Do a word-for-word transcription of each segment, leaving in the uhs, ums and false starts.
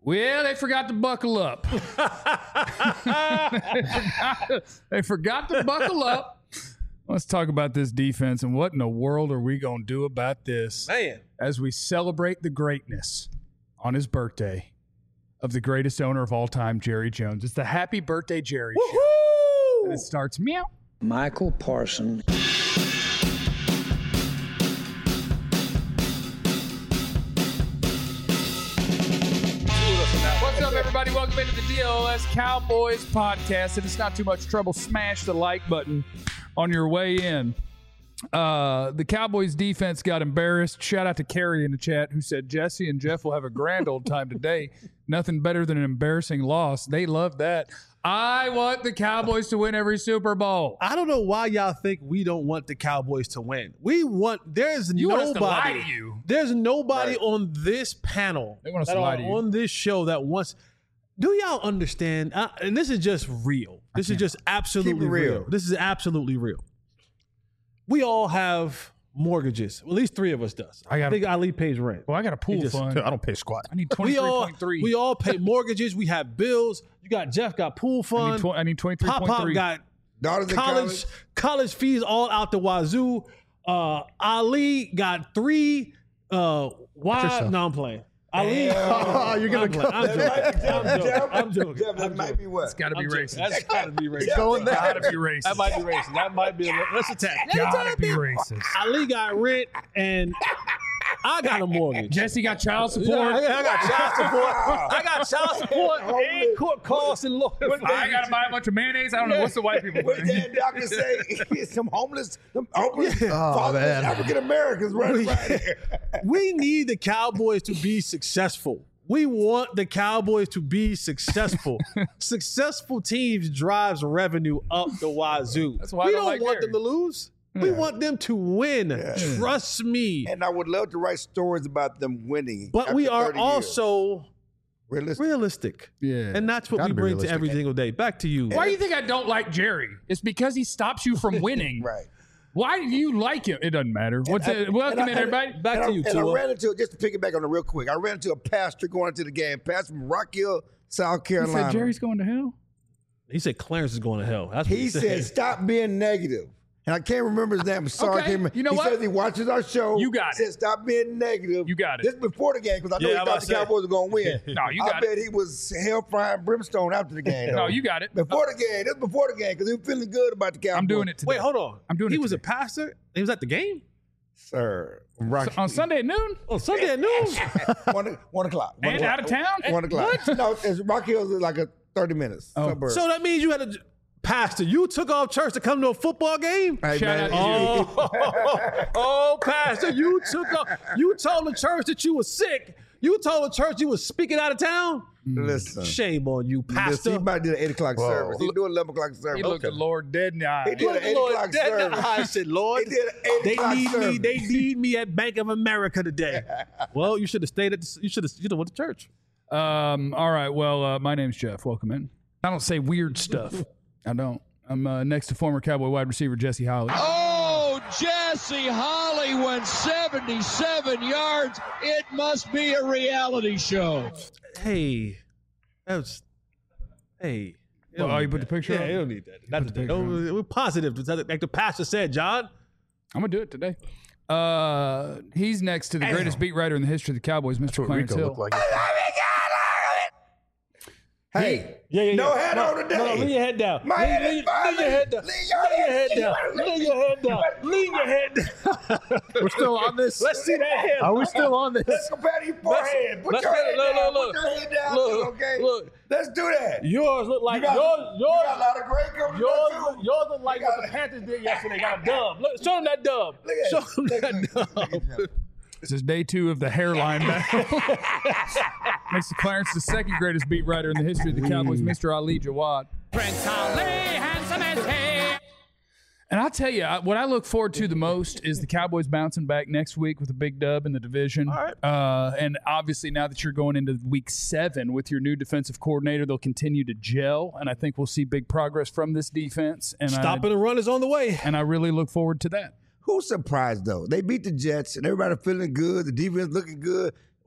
Well, they forgot to buckle up. they, forgot, they forgot to buckle up. Let's talk about this defense and what in the world are we going to do about this? Man. As we celebrate the greatness on his birthday of the greatest owner of all time, Jerry Jones. It's the Happy Birthday Jerry Woo-hoo! Show. And it starts meow. Michael Parsons. What's up, everybody? Welcome into the D L S Cowboys podcast. If it's not too much trouble, smash the like button on your way in. Uh, the Cowboys defense got embarrassed. Shout out to Carrie in the chat who said Jesse and Jeff will have a grand old time today. Nothing better than an embarrassing loss. They love that. I want the Cowboys to win every Super Bowl. I don't know why y'all think we don't want the Cowboys to win. We want, there's You want us nobody. to lie to you. There's nobody Right. on this panel They want us that to lie are to you. on this show that wants. Do y'all understand? Uh, and this is just real. This is just absolutely real. real. This is absolutely real. We all have mortgages. At least three of us does. I got- think Ali pays rent. Well, I got a pool just- fund. I don't pay squat. I need We twenty-three all point three. we all pay mortgages. We have bills. You got Jeff got pool I fund. need, tw- I need twenty-three Pop point Pop three. got Daughters in college, college. college fees all out the wazoo. Uh, Ali got three. Uh, why? yourself. No, I'm playing. Ali, Oh, you're gonna I'm playing. I'm joking. I'm joking. I'm joking. Jeff, that I'm might joking. be what? It's got to be I'm joking. racist. That's gotta be racist. Going It's got to be racist. That might be racist. That might be a let's attack. Got to be racist. Ali got rent and I got a mortgage. Jesse got child Yeah, support. I got I got child support. I got child support and court costs and lawyer I got to buy a bunch of mayonnaise. I don't know. What's the white people What doing? did that doctor say? Some homeless, some homeless Oh, man. African Americans running We- right here. We need the Cowboys to be successful. We want the Cowboys to be successful. Successful teams drives revenue up the wazoo. That's why I we don't don't like want Gary. them to lose. We want them to win. Trust me. And I would love to write stories about them winning. But after we are thirty years. also realistic. realistic. Yeah. And that's what Gotta we be bring to realistic. every single day. Back to you. Why do you think I don't like Jerry? It's because he stops you from winning. Right. Why do you like him? It doesn't matter. What's And I- it? Welcome and I- in, everybody. Back and to I, you, and I Tua. ran into, just to piggyback on it real quick, I ran into a pastor going into the game, pastor from Rock Hill, South He Carolina. said Jerry's going to hell. He said Clarence is going to hell. That's what he, He said, stop being negative. And I can't remember his name. I'm sorry. I Okay, can't remember. you know he what? says he watches our show. You got he it. said, stop being negative. You got it. This before the game, because I know Yeah, he I'm thought about the to say. Cowboys were going to win. No, you I got bet it. he was hellfire and brimstone after the game. No, though. you got it. Before the game. This before the game, because he was feeling good about the Cowboys. I'm doing it today. Wait, hold on. I'm doing he it was a today. pastor? He was at the game? Sir. Rock, On Sunday at noon On Sunday at noon? one, one o'clock. One and o'clock. out of town. One o'clock. No, it's Rock Hill is like a thirty minutes. Oh. Suburb. So that means you had a pastor. You took off church to come to a football game? Hey, Shout man, out to Oh, oh, pastor, you took off. You told the church that you were sick. You told the church you was speaking out of town? listen. Shame on you, Listen, pastor. he might do the eight o'clock service. He do eleven o'clock service. He looked the Lord dead in the eye. He did an eight Lord, o'clock that- service. I said, Lord, He did an eight they o'clock need me. service. They need me at Bank of America today. Well, you should have stayed at. The, you should have. You should have went to church. Um, all right. Well, uh, my name's Jeff. Welcome in. I don't say weird stuff. I don't. I'm uh, next to former Cowboy wide receiver Jesse Holly. Oh, Jesse Holly went seventy-seven yards. It must be a reality show. Hey, that was. Hey. Oh, don't you need put the that. picture Yeah, up? you don't need that. Not the today. picture No, we're positive. Like the pastor said, John. I'm gonna do it today. Uh, he's next to the greatest beat writer in the history of the Cowboys, Mister Clarence Hill. Hey, Yeah, yeah, no yeah. head on today. No, no, lean your head down. My lean, head is lean, fine. lean your head down. Lean your Lean your head head down. down. Lean your head down. Lean your head down. We're still on this. Let's see that head. Are we still on this? Let's compare your forehead. Put let's your get head it. Look, down. look, Put your head down. look. too, okay? Look. Let's do that. Yours look like You got, yours. you Yours. got a lot of great coming Yours, too. look, yours look like You what got the it. Panthers did yesterday. Got a dub. Look, show them that dub. Look at Show it. them Look that at it. Look dub. at it. This is day two of the hairline battle. Makes the Clarence the second greatest beat writer in the history of the Cowboys, Mister Ali Jawad. And I'll tell you, I- what I look forward to the most is the Cowboys bouncing back next week with a big dub in the division. All right. Uh, and obviously, now that you're going into week seven with your new defensive coordinator, they'll continue to gel. And I think we'll see big progress from this defense. And Stopping I, the run is on the way. and I really look forward to that. Who's surprised though? They beat the Jets and everybody feeling good. The defense looking good.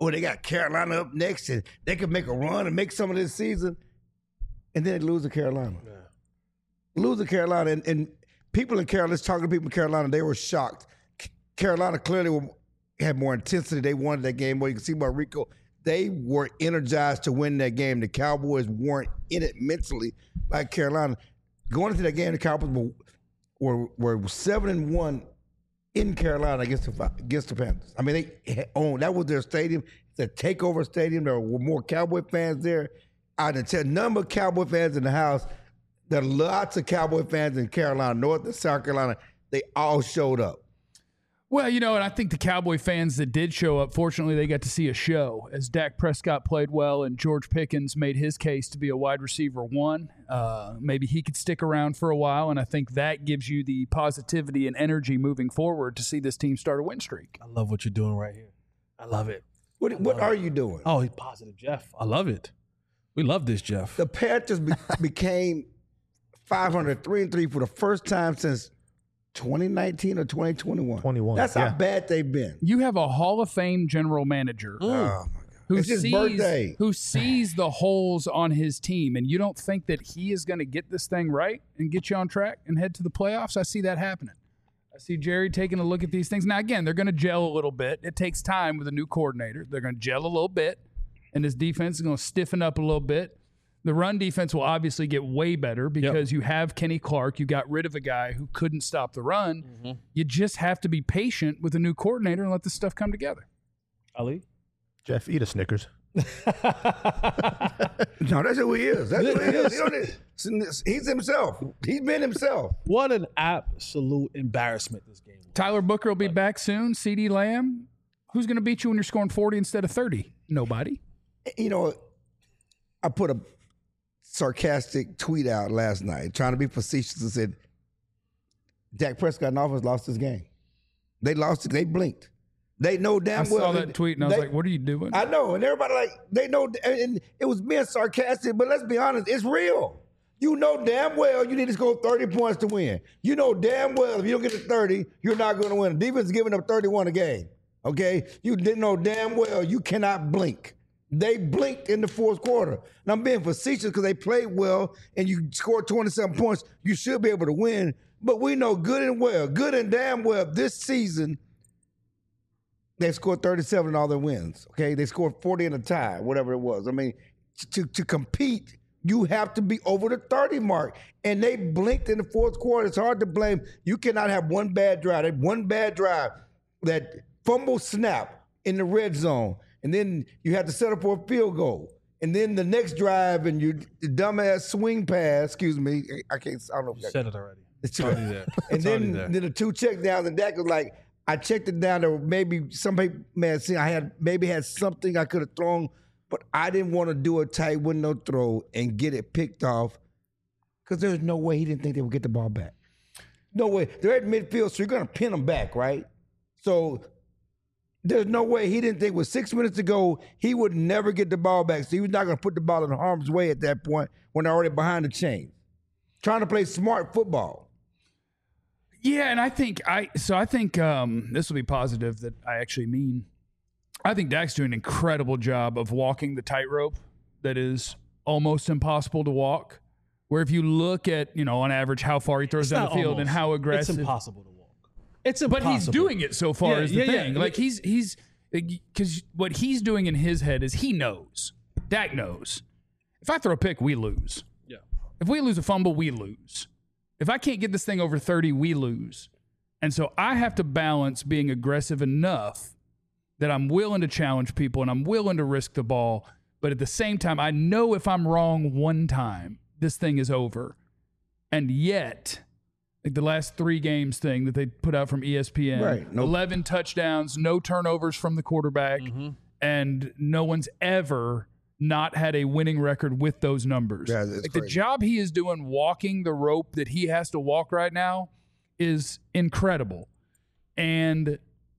oh, they got Carolina up next, and they could make a run and make some of this season, and then they lose to Carolina. Yeah. Lose to Carolina, and, and people in Carolina, let's talk to people in Carolina, they were shocked. C- Carolina clearly were, had more intensity. They wanted that game. Well, you can see by Rico, they were energized to win that game. The Cowboys weren't in it mentally like Carolina. Going into that game, the Cowboys were, were, were seven and one in Carolina against the against the Panthers. I mean, they owned that was their stadium. It's a takeover stadium. There were more Cowboy fans there. I didn't tell number of Cowboy fans in the house. There are lots of Cowboy fans in Carolina, North and South Carolina. They all showed up. Well, you know, and I think the Cowboy fans that did show up, fortunately, they got to see a show as Dak Prescott played well and George Pickens made his case to be a wide receiver one. Uh, maybe he could stick around for a while, and I think that gives you the positivity and energy moving forward to see this team start a win streak. I love what you're doing right here. I love it. What, what are you doing? Oh, he's positive, Jeff. I love it. We love this, Jeff. The Panthers be- became five hundred, three and three for the first time since twenty nineteen or twenty twenty-one. twenty-one. That's yeah. how bad they've been. You have a Hall of Fame general manager Mm. Oh, my God. who It's his sees birthday. who sees the holes on his team, and you don't think that he is going to get this thing right and get you on track and head to the playoffs? I see that happening. I see Jerry taking a look at these things. Now, again, they're going to gel a little bit. It takes time with a new coordinator. They're going to gel a little bit, and this defense is going to stiffen up a little bit. The run defense will obviously get way better because yep. you have Kenny Clark. You got rid of a guy who couldn't stop the run. Mm-hmm. You just have to be patient with a new coordinator and let this stuff come together. Ali? Jeff, eat a Snickers. No, that's who he is. That's who he is. He don't- He's himself. He's been himself. What an absolute embarrassment this game was. Tyler Booker will be back soon. CeeDee Lamb. Who's going to beat you when you're scoring forty instead of thirty? Nobody. You know, I put a sarcastic tweet out last night trying to be facetious and said, Dak Prescott and offense lost this game. They lost it. They blinked. They know damn I well. saw that they, tweet and I was they, like, what are you doing? I know. And everybody like, they know. And it was being sarcastic, but let's be honest, it's real. You know damn well you need to score thirty points to win. You know damn well if you don't get to thirty, you're not going to win. The defense is giving up thirty-one a game. Okay? You didn't know damn well you cannot blink. They blinked in the fourth quarter. And I'm being facetious because they played well and you scored twenty-seven points. You should be able to win. But we know good and well, good and damn well this season, they scored thirty-seven in all their wins. Okay? They scored forty in a tie, whatever it was. I mean, to, to compete, you have to be over the thirty mark. And they blinked in the fourth quarter. It's hard to blame. You cannot have one bad drive. They had one bad drive, that fumble snap in the red zone. And then you have to set up for a field goal. And then the next drive and you dumbass swing pass, excuse me, I can't, I don't know. You said it already. It's already there. And It's then, there. then the two check downs, and Dak was like, I checked it down. There were maybe some people may have seen I had maybe had something I could have thrown, but I didn't want to do a tight window throw and get it picked off because there's no way he didn't think they would get the ball back. No way. They're at midfield, so you're going to pin them back, right? So there's no way he didn't think with six minutes to go, he would never get the ball back. So he was not going to put the ball in harm's way at that point when they're already behind the chain. Trying to play smart football. Yeah, and I think I so I think um, this will be positive that I actually mean. I think Dak's doing an incredible job of walking the tightrope that is almost impossible to walk. Where if you look at, you know, on average how far he throws It's down not the field almost. and how aggressive. It's impossible to walk. It's impossible. But he's doing it so far Yeah, is the yeah, yeah. thing. Like he's he's because what he's doing in his head is he knows. Dak knows. If I throw a pick, we lose. Yeah. If we lose a fumble, we lose. If I can't get this thing over thirty, we lose. And so I have to balance being aggressive enough that I'm willing to challenge people and I'm willing to risk the ball. But at the same time, I know if I'm wrong one time, this thing is over. And yet, like the last three games thing that they put out from E S P N, Right. Nope. eleven touchdowns, no turnovers from the quarterback, Mm-hmm. and no one's ever not had a winning record with those numbers. Yeah, it's like the crazy. job he is doing walking the rope that he has to walk right now is incredible. And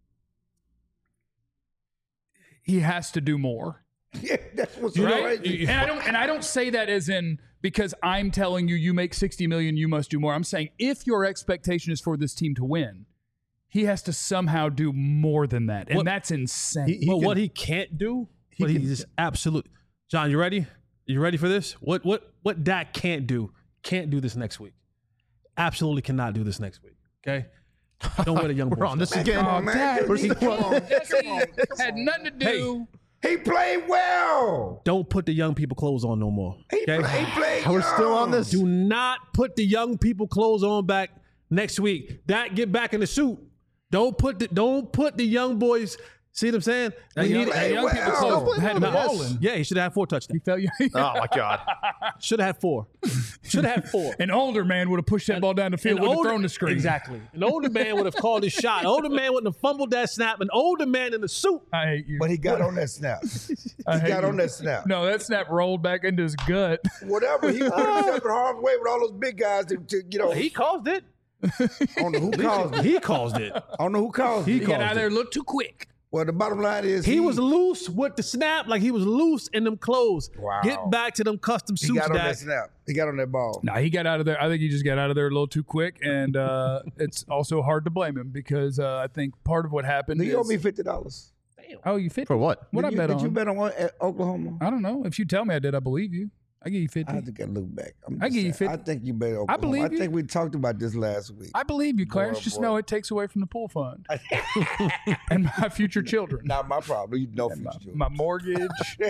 he has to do more. Yeah, that's what's Right? right. And I don't and I don't say that as in because I'm telling you you make sixty million, you must do more. I'm saying if your expectation is for this team to win, he has to somehow do more than that, and What- that's insane. He, he But can- what he can't do, he what he can- just absolute. John, you ready? You ready for this? What what what Dak can't do? Can't do this next week. Absolutely cannot do this next week. Okay. Don't wear the young boy. We're on this stuff. again. Come on, man. We're He- still come on. He had nothing to do. He played well. Don't put the young people clothes on no more. He, Okay. play, he played We're still on young. this. Do not put the young people clothes on back next week. That get back in the suit. Don't put the don't put the young boys. See what I'm saying? That We young, need- that young well. people close had him No, balling. Yeah, he should have had four He touchdowns. felt you. Oh my God. Should have had four. Should have had four. An older man would have pushed that ball down the field, An would have older- thrown the screen. Exactly. An older man would have called his shot. An older man wouldn't have fumbled that snap. An older man in the suit. I hate you. But he got on that snap. I He hate got you. on that snap. No, that snap rolled back into his gut. Whatever. He put himself in harm's way with all those big guys to, to you know. He caused it. I don't know who caused it. He caused it. I don't know who caused He it. He got caused out of it. there a little too quick. Well, the bottom line is He was loose with the snap, like he was loose in them clothes. Wow. Get back to them custom He suits, got on Dak. that snap. He got on that ball. No, he got out of there. I think he just got out of there a little too quick, and uh, it's also hard to blame him because uh, I think part of what happened He owe is me fifty dollars. oh, you fit For what? What did I you, bet did on? you bet on what, at Oklahoma? I don't know. If you tell me I did, I believe you. I give you fifty. I think I look back. I'm I just give you saying, fifty. I think you bet Oklahoma. I believe I you. think we talked about this last week. I believe you, Clarence. Boy, Just boy. know it takes away from the pool fund and my future children. Not my problem. You know future children. My mortgage.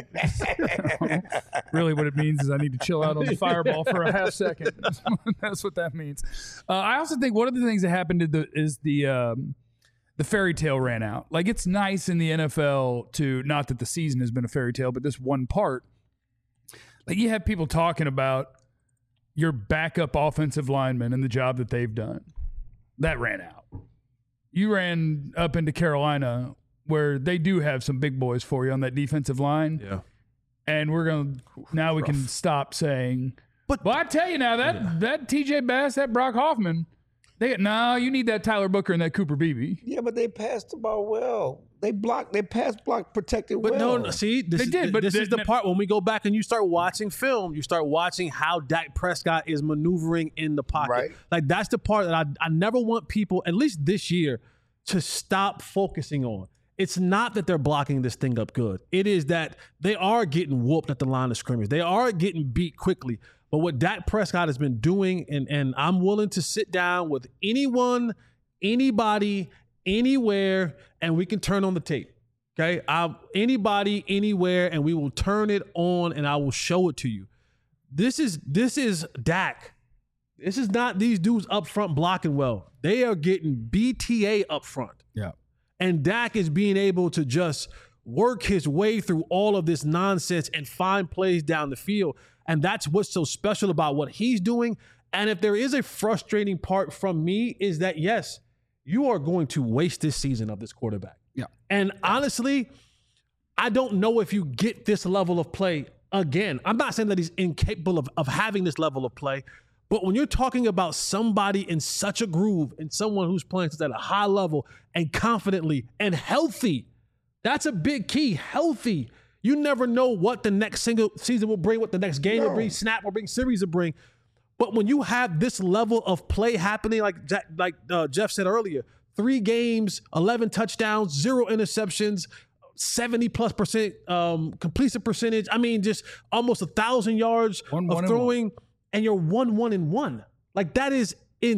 Really, what it means is I need to chill out on the fireball for a half second. That's what that means. Uh, I also think one of the things that happened to the, is the um, the fairy tale ran out. Like, it's nice in the N F L to, not that the season has been a fairy tale, but this one part. Like, you have people talking about your backup offensive linemen and the job that they've done. That ran out. You ran up into Carolina where they do have some big boys for you on that defensive line. Yeah. And we're going to, now we can stop saying, But- well, I tell you now, that, that T J Bass, that Brock Hoffman, they no, you need that Tyler Booker and that Cooper Beebe. Yeah, but they passed the ball well. They blocked. They pass block protected But well. no, no, see, this, They is, did, but this they- is the they- part when we go back and you start watching film, you start watching how Dak Prescott is maneuvering in the pocket. Right. Like, that's the part that I, I never want people, at least this year, to stop focusing on. It's not that they're blocking this thing up good. It is that they are getting whooped at the line of scrimmage. They are getting beat quickly. But what Dak Prescott has been doing, and, and I'm willing to sit down with anyone, anybody, anywhere, and we can turn on the tape. Okay? I'll, anybody, anywhere, and we will turn it on and I will show it to you. This is this is Dak. This is not these dudes up front blocking well. They are getting B T A up front. Yeah. And Dak is being able to just work his way through all of this nonsense and find plays down the field. And that's what's so special about what he's doing. And if there is a frustrating part from me, is that, yes, you are going to waste this season of this quarterback. Yeah. And honestly, I don't know if you get this level of play again. I'm not saying that he's incapable of, of having this level of play, but when you're talking about somebody in such a groove and someone who's playing at a high level and confidently and healthy, that's a big key. Healthy. You never know what the next single season will bring, what the next game will bring, snap will bring, series will bring. But when you have this level of play happening, like Jack, like uh, Jeff said earlier, three games, eleven touchdowns, zero interceptions, seventy plus percent um, completion percentage. I mean, just almost a thousand yards One, of one, and throwing, and you're one, one, and one. Like, that is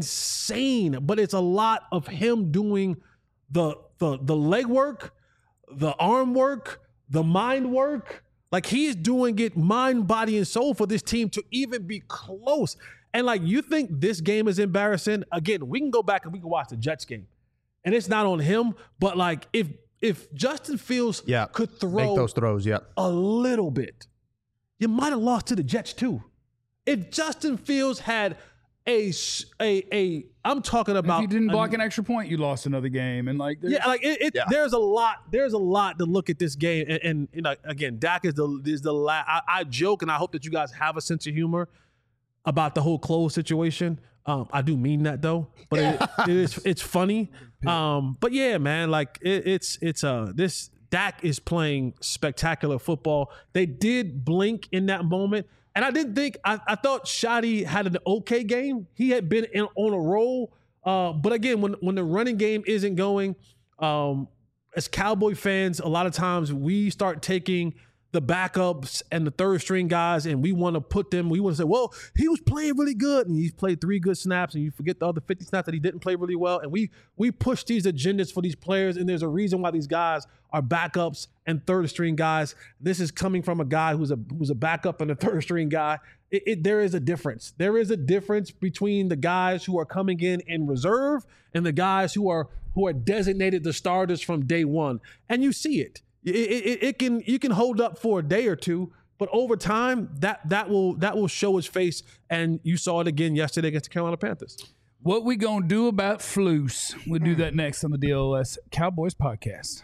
insane. But it's a lot of him doing the the the leg work, the arm work, the mind work. Like, he's doing it mind, body, and soul for this team to even be close. And like, you think this game is embarrassing? Again, we can go back and we can watch the Jets game. And it's not on him, but like, if if Justin Fields Yeah. could throw Make those throws. Yeah. a little bit, you might have lost to the Jets too. If Justin Fields had a s- a a, I'm talking about If you didn't a- block an extra point, you lost another game. And like, there's- yeah, like it, it Yeah. there's a lot. There's a lot to look at this game, and, and you know, again, Dak is the is the la- I, I joke, and I hope that you guys have a sense of humor about the whole clothes situation. Um, I do mean that though, but it, it is it's funny. Um, but yeah, man, like it, it's it's uh this Dak is playing spectacular football. They did blink in that moment, and I didn't think I, I thought Shotty had an okay game. He had been in, on a roll Uh, but again, when when the running game isn't going, um, as Cowboy fans, a lot of times we start taking the backups and the third string guys, and we want to put them, we want to say, well, he was playing really good, and he's played three good snaps, and you forget the other fifty snaps that he didn't play really well. And we we push these agendas for these players, and there's a reason why these guys are backups and third string guys. This is coming from a guy who's a who's a backup and a third string guy. It, it, there is a difference. There is a difference between the guys who are coming in in reserve and the guys who are who are designated the starters from day one, and you see it. It, it, it can you can hold up for a day or two, but over time that that will that will show its face, and you saw it again yesterday against the Carolina Panthers. What we gonna do about Flus? We'll do that next on the D L S Cowboys podcast.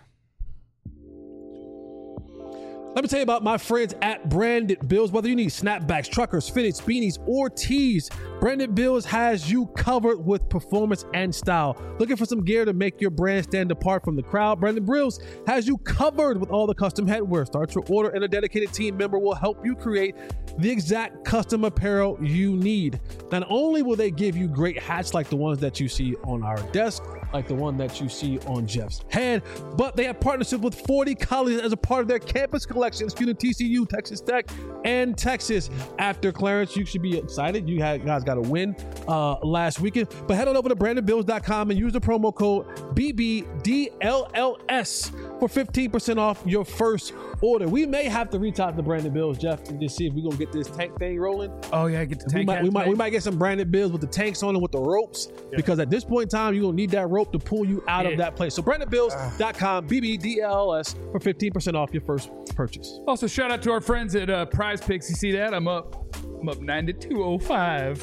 Let me tell you about my friends at Branded Bills. Whether you need snapbacks, truckers, fitteds, beanies, or tees, Branded Bills has you covered with performance and style. Looking for some gear to make your brand stand apart from the crowd? Branded Bills has you covered with all the custom headwear. Start your order and a dedicated team member will help you create the exact custom apparel you need. Not only will they give you great hats like the ones that you see on our desk, like the one that you see on Jeff's head, but they have partnership with forty colleges as a part of their campus collection, including T C U, Texas Tech, and Texas. After Clarence, you should be excited. You had, guys got a win uh, last weekend, but head on over to branded bills dot com and use the promo code B B D L L S for fifteen percent off your first order. We may have to reach out to Branded Bills, Jeff, and just see if we're gonna get this tank thing rolling. Oh yeah, get the tank. We might, we might, we might get some Branded Bills with the tanks on and with the ropes, yeah. Because at this point in time, you're gonna need that rope to pull you out yeah. of that place. So branded bills dot com, B B D L L S for fifteen percent off your first purchase. Also, shout out to our friends at uh, Prize Picks. You see that? I'm up. I'm up ninety-two oh five.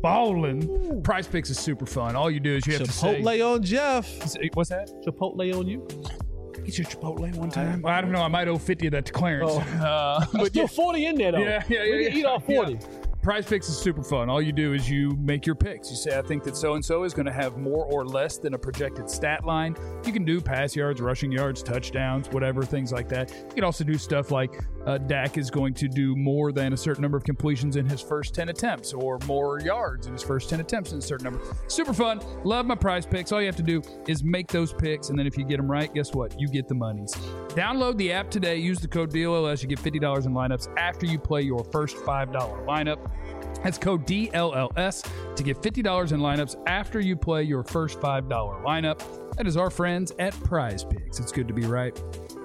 Balling. Prize Picks is super fun. All you do is you have Chipotle to say. Chipotle on Jeff. What's that? Chipotle on you. Get your Chipotle one time. Well, I don't know. I might owe fifty of that to Clarence. Oh. Uh, but still forty in there though. Yeah, yeah, yeah. We can yeah, eat all forty. Yeah. Prize Picks is super fun. All you do is you make your picks. You say, I think that so-and-so is going to have more or less than a projected stat line. You can do pass yards, rushing yards, touchdowns, whatever, things like that. You can also do stuff like uh, Dak is going to do more than a certain number of completions in his first ten attempts or more yards in his first ten attempts in a certain number. Super fun. Love my Prize Picks. All you have to do is make those picks, and then if you get them right, guess what? You get the monies. Download the app today. Use the code D L L S. You get fifty dollars in lineups after you play your first five dollar lineup. That's code D L L S to get fifty dollars in lineups after you play your first five dollar lineup. That is our friends at Prize Picks. It's good to be right.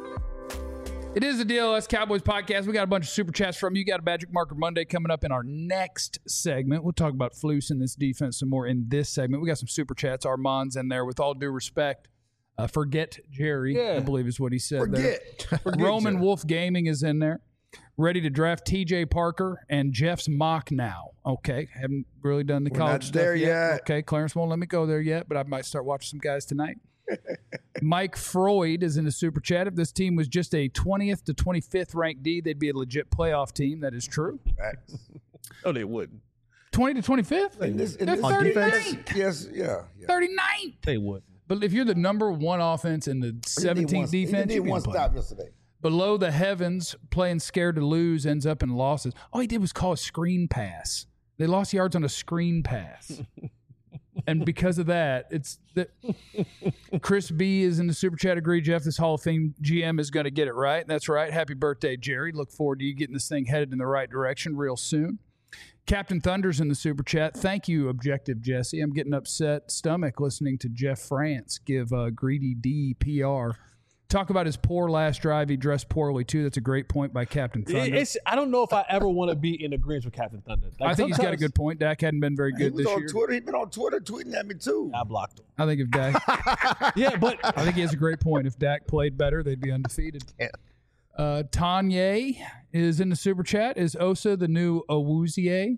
It is the D L S Cowboys podcast. We got a bunch of super chats from you. Got a Magic Marker Monday coming up in our next segment. We'll talk about Flus and this defense some more in this segment. We got some super chats. Armand's in there. With all due respect, uh, forget Jerry, yeah. I believe is what he said forget. there. Forget Roman Jerry. Wolf Gaming is in there. Ready to draft T J Parker and Jeff's mock now. Okay, haven't really done the We're college not stuff there yet. yet. Okay, Clarence won't let me go there yet, but I might start watching some guys tonight. Mike Freud is in the super chat. If this team was just a twentieth to twenty-fifth ranked D, they'd be a legit playoff team. That is true. Oh, they wouldn't. twenty to twenty-fifth? In this, in They're this thirty-ninth. Yes, yeah. yeah. thirty-ninth. They wouldn't. But if you're the number one offense in the seventeenth He defense, did you one can play. stop yesterday. Below the heavens, playing scared to lose, ends up in losses. All he did was call a screen pass. They lost yards on a screen pass. And because of that, it's the, Chris B is in the super chat. Agree, Jeff, this Hall of Fame G M is going to get it right. That's right. Happy birthday, Jerry. Look forward to you getting this thing headed in the right direction real soon. Captain Thunder's in the super chat. Thank you, Objective Jesse. I'm getting upset stomach listening to Jeff France give uh, Greedy D P R. Talk about his poor last drive. He dressed poorly, too. That's a great point by Captain Thunder. It's, I don't know if I ever want to be in agreement with Captain Thunder. Like I think he's got a good point. Dak hadn't been very He good was this on year. Twitter. He's been on Twitter tweeting at me, too. I blocked him. I think if Dak... Yeah, but... I think he has a great point. If Dak played better, they'd be undefeated. Yeah. Uh, Tanya is in the super chat. Is Osa the new Owuzie?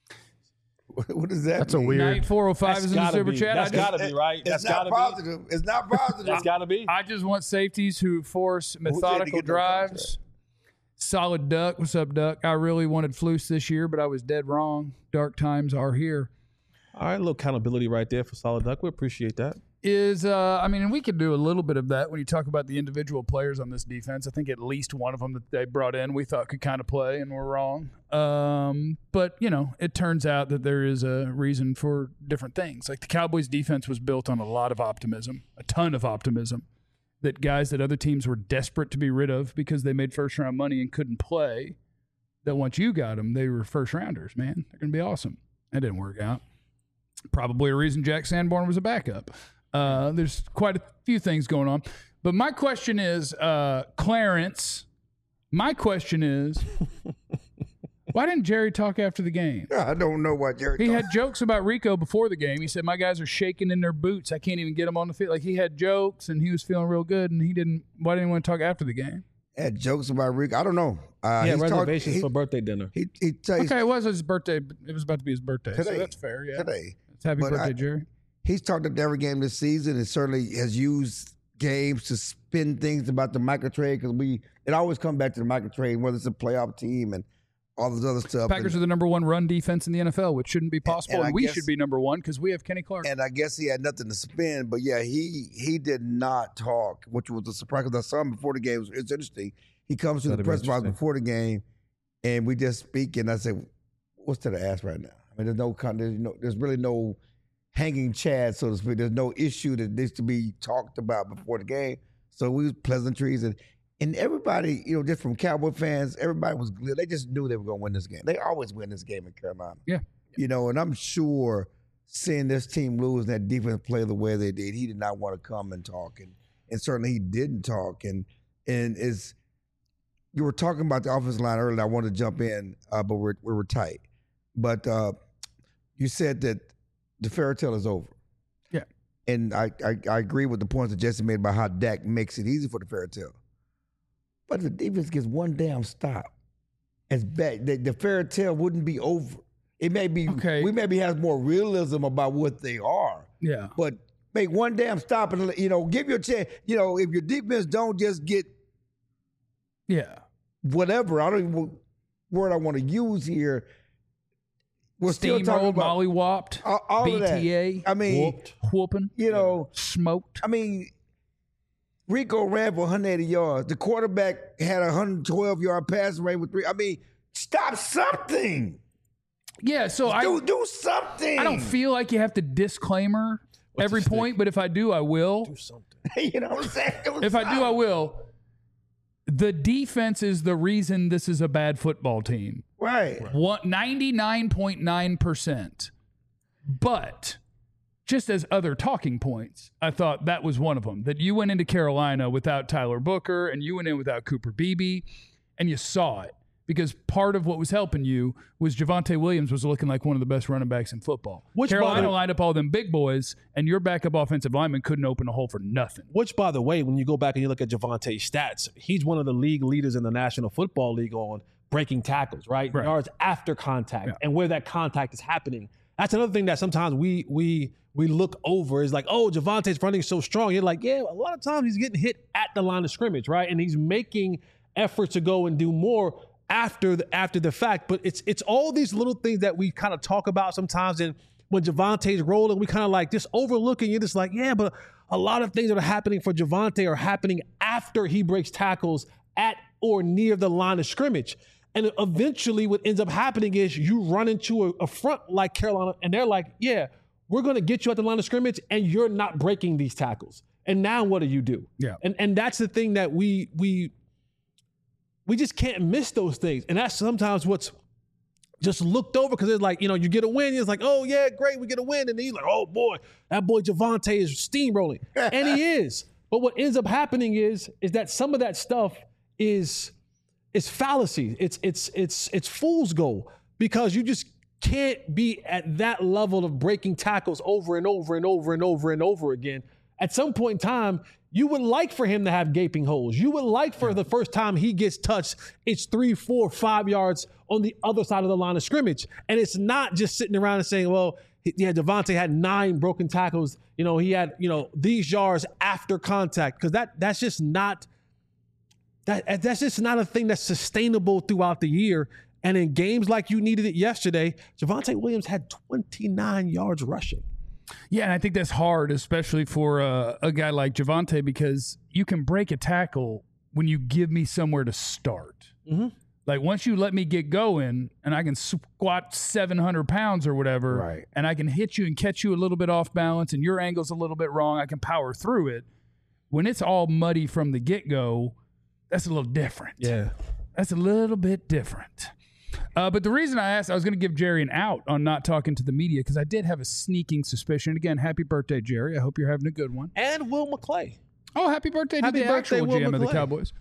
What does that That's a mean? weird- Night four oh five That's is in the gotta super be. chat. That's I just, gotta be, right? It's That's not gotta positive. It's not positive. That's gotta be. I just want safeties who force Who said to methodical get no drives. Solid Duck. What's up, Duck? I really wanted Flus this year, but I was dead wrong. Dark times are here. All right, a little accountability right there for Solid Duck. We appreciate that. is, uh, I mean, and we could do a little bit of that when you talk about the individual players on this defense. I think at least one of them that they brought in we thought could kind of play, and we're wrong. Um, but, you know, it turns out that there is a reason for different things. Like the Cowboys defense was built on a lot of optimism, a ton of optimism, that guys that other teams were desperate to be rid of because they made first-round money and couldn't play, that once you got them, they were first-rounders, man. They're going to be awesome. That didn't work out. Probably a reason Jack Sanborn was a backup. Uh, there's quite a few things going on. But my question is, uh, Clarence, my question is, why didn't Jerry talk after the game? I don't know why Jerry He talk. had jokes about Rico before the game. He said, my guys are shaking in their boots. I can't even get them on the field. Like, he had jokes, and he was feeling real good, and he didn't. Why didn't he want to talk after the game? had jokes about Rico. I don't know. Uh, Yeah, he's talked- reservations he- for birthday dinner. He, he, he, Okay, it was his birthday. It was about to be his birthday, so Today. that's fair. Yeah, today. It's happy But birthday, I- Jerry. He's talked at every game this season and certainly has used games to spin things about the micro trade because we it always comes back to the micro trade, whether it's a playoff team and all this other stuff. Packers and, are the number one run defense in the N F L, which shouldn't be possible, and and, I we guess- should be number one because we have Kenny Clark. and I guess he had nothing to spin, but yeah, he he did not talk, which was a surprise because I saw him before the game. It's interesting. He comes to the That'd be press box interesting. before the game, and we just speak, and I said, "What's to the ass right now?" I mean, there's no, con- there's no, there's really no hanging chad, so to speak. There's no issue that needs to be talked about before the game. So we was pleasantries, and and everybody, you know, just from Cowboy fans, everybody was glad. They just knew they were going to win this game. They always win this game in Carolina. Yeah. You know, and I'm sure seeing this team lose and that defense play the way they did, he did not want to come and talk, and and certainly he didn't talk. And and is you were talking about the offensive line earlier. I wanted to jump in, uh, but we're we were tight. But uh, you said that the fairy tale is over. Yeah. And I, I, I agree with the points that Jesse made about how Dak makes it easy for the fairy tale. But if the defense gets one damn stop, as bad, the, the fairy tale wouldn't be over. It may be, Okay. we maybe have more realism about what they are, Yeah. but make one damn stop and, you know, give your chance. You know, if your defense don't just get Yeah. whatever, I don't even what word I want to use here. We're still talking Steamrolled, about molly whopped, all, all of that. B T A, I mean, whooped, whooping, you know, smoked. I mean, Rico ran for one hundred eighty yards. The quarterback had a one hundred twelve yard passing range with three. I mean, stop something. Yeah, so I Do do something. I don't feel like you have to disclaimer every the stick? point, but if I do, I will. Do something. you know what I'm saying? Do If I do, I something. will. The defense is the reason this is a bad football team. Right. What ninety-nine point nine percent. But just as other talking points, I thought that was one of them. That you went into Carolina without Tyler Booker and you went in without Cooper Beebe, and you saw it. Because part of what was helping you was Javonte Williams was looking like one of the best running backs in football. Which, Carolina by the- lined up all them big boys, and your backup offensive lineman couldn't open a hole for nothing. Which, by the way, when you go back and you look at Javonte's stats, he's one of the league leaders in the National Football League on breaking tackles, right? Right. Yards after contact Yeah. and where that contact is happening. That's another thing that sometimes we we we look over is like, oh, Javonte's running so strong. You're like, yeah, a lot of times he's getting hit at the line of scrimmage, right? And he's making efforts to go and do more after the after the fact. But it's it's all these little things that we kind of talk about sometimes. And when Javonte's rolling, we kind of like just overlooking. You're just like, yeah, but a lot of things that are happening for Javonte are happening after he breaks tackles at or near the line of scrimmage. And eventually what ends up happening is you run into a, a front like Carolina, and they're like, yeah, we're going to get you at the line of scrimmage, and you're not breaking these tackles. And now what do you do? Yeah. And and that's the thing that we we we just can't miss those things. And that's sometimes what's just looked over because it's like, you know, you get a win. It's like, oh, yeah, great, we get a win. And then you're like, oh, boy, that boy Javonte is steamrolling. And he is. But what ends up happening is, is that some of that stuff is, is fallacy. It's, it's, it's, it's fool's gold because you just can't be at that level of breaking tackles over and over and over and over and over again. At some point in time, you would like for him to have gaping holes. You would like for the first time he gets touched, it's three, four, five yards on the other side of the line of scrimmage. And it's not just sitting around and saying, well, yeah, Javonte had nine broken tackles. You know, he had, you know, these yards after contact. Because that that's just not that that's just not a thing that's sustainable throughout the year. And in games like you needed it yesterday, Javonte Williams had twenty-nine yards rushing. Yeah, and I think that's hard, especially for uh, a guy like Javonte, because you can break a tackle when you give me somewhere to start. Mm-hmm. Like once you let me get going and I can squat seven hundred pounds or whatever, Right. and I can hit you and catch you a little bit off balance and your angle's a little bit wrong, I can power through it. When it's all muddy from the get-go, that's a little different. Yeah. That's a little bit different. Uh, but the reason I asked, I was going to give Jerry an out on not talking to the media because I did have a sneaking suspicion. Again, happy birthday, Jerry. I hope you're having a good one. And Will McClay. Oh, happy birthday Happy to the birthday, actual Will G M of the McClay. Cowboys.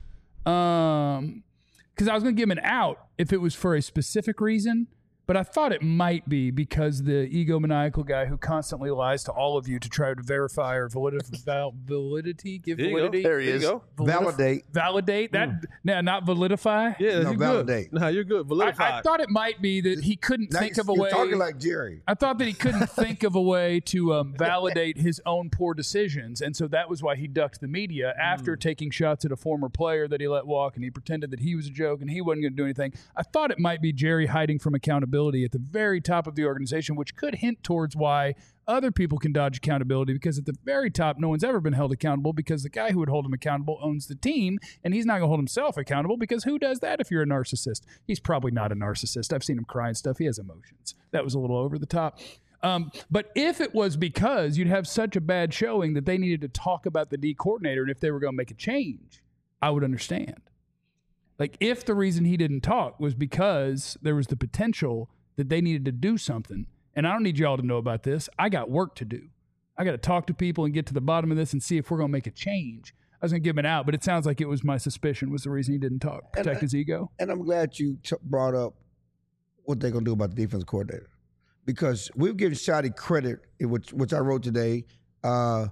Um, because I was going to give him an out if it was for a specific reason, but I thought it might be because the egomaniacal guy who constantly lies to all of you to try to verify or validity, val- validity give There you go. validity. There he is. Validif- Validate. Validate that. Nah, not validify. Yeah, No, you're validate. good. No, you're good. I, Validify. I thought it might be that he couldn't Now think you- of a you're way. talking like Jerry. I thought that he couldn't think of a way to um, validate his own poor decisions. And so that was why he ducked the media after taking shots at a former player that he let walk, and he pretended that he was a joke and he wasn't going to do anything. I thought it might be Jerry hiding from accountability at the very top of the organization, which could hint towards why other people can dodge accountability, because at the very top, no one's ever been held accountable because the guy who would hold him accountable owns the team, and he's not going to hold himself accountable because who does that if you're a narcissist? He's probably not a narcissist. I've seen him cry and stuff. He has emotions. That was a little over the top. Um, but if it was because you'd have such a bad showing that they needed to talk about the D coordinator and if they were going to make a change, I would understand. Like if the reason he didn't talk was because there was the potential that they needed to do something, and I don't need y'all to know about this. I got work to do. I got to talk to people and get to the bottom of this and see if we're going to make a change. I was going to give him it out, but it sounds like it was my suspicion was the reason he didn't talk. Protect And I- his ego. And I'm glad you t- brought up what they're going to do about the defense coordinator, because we've given Shotty credit, which which I wrote today, uh,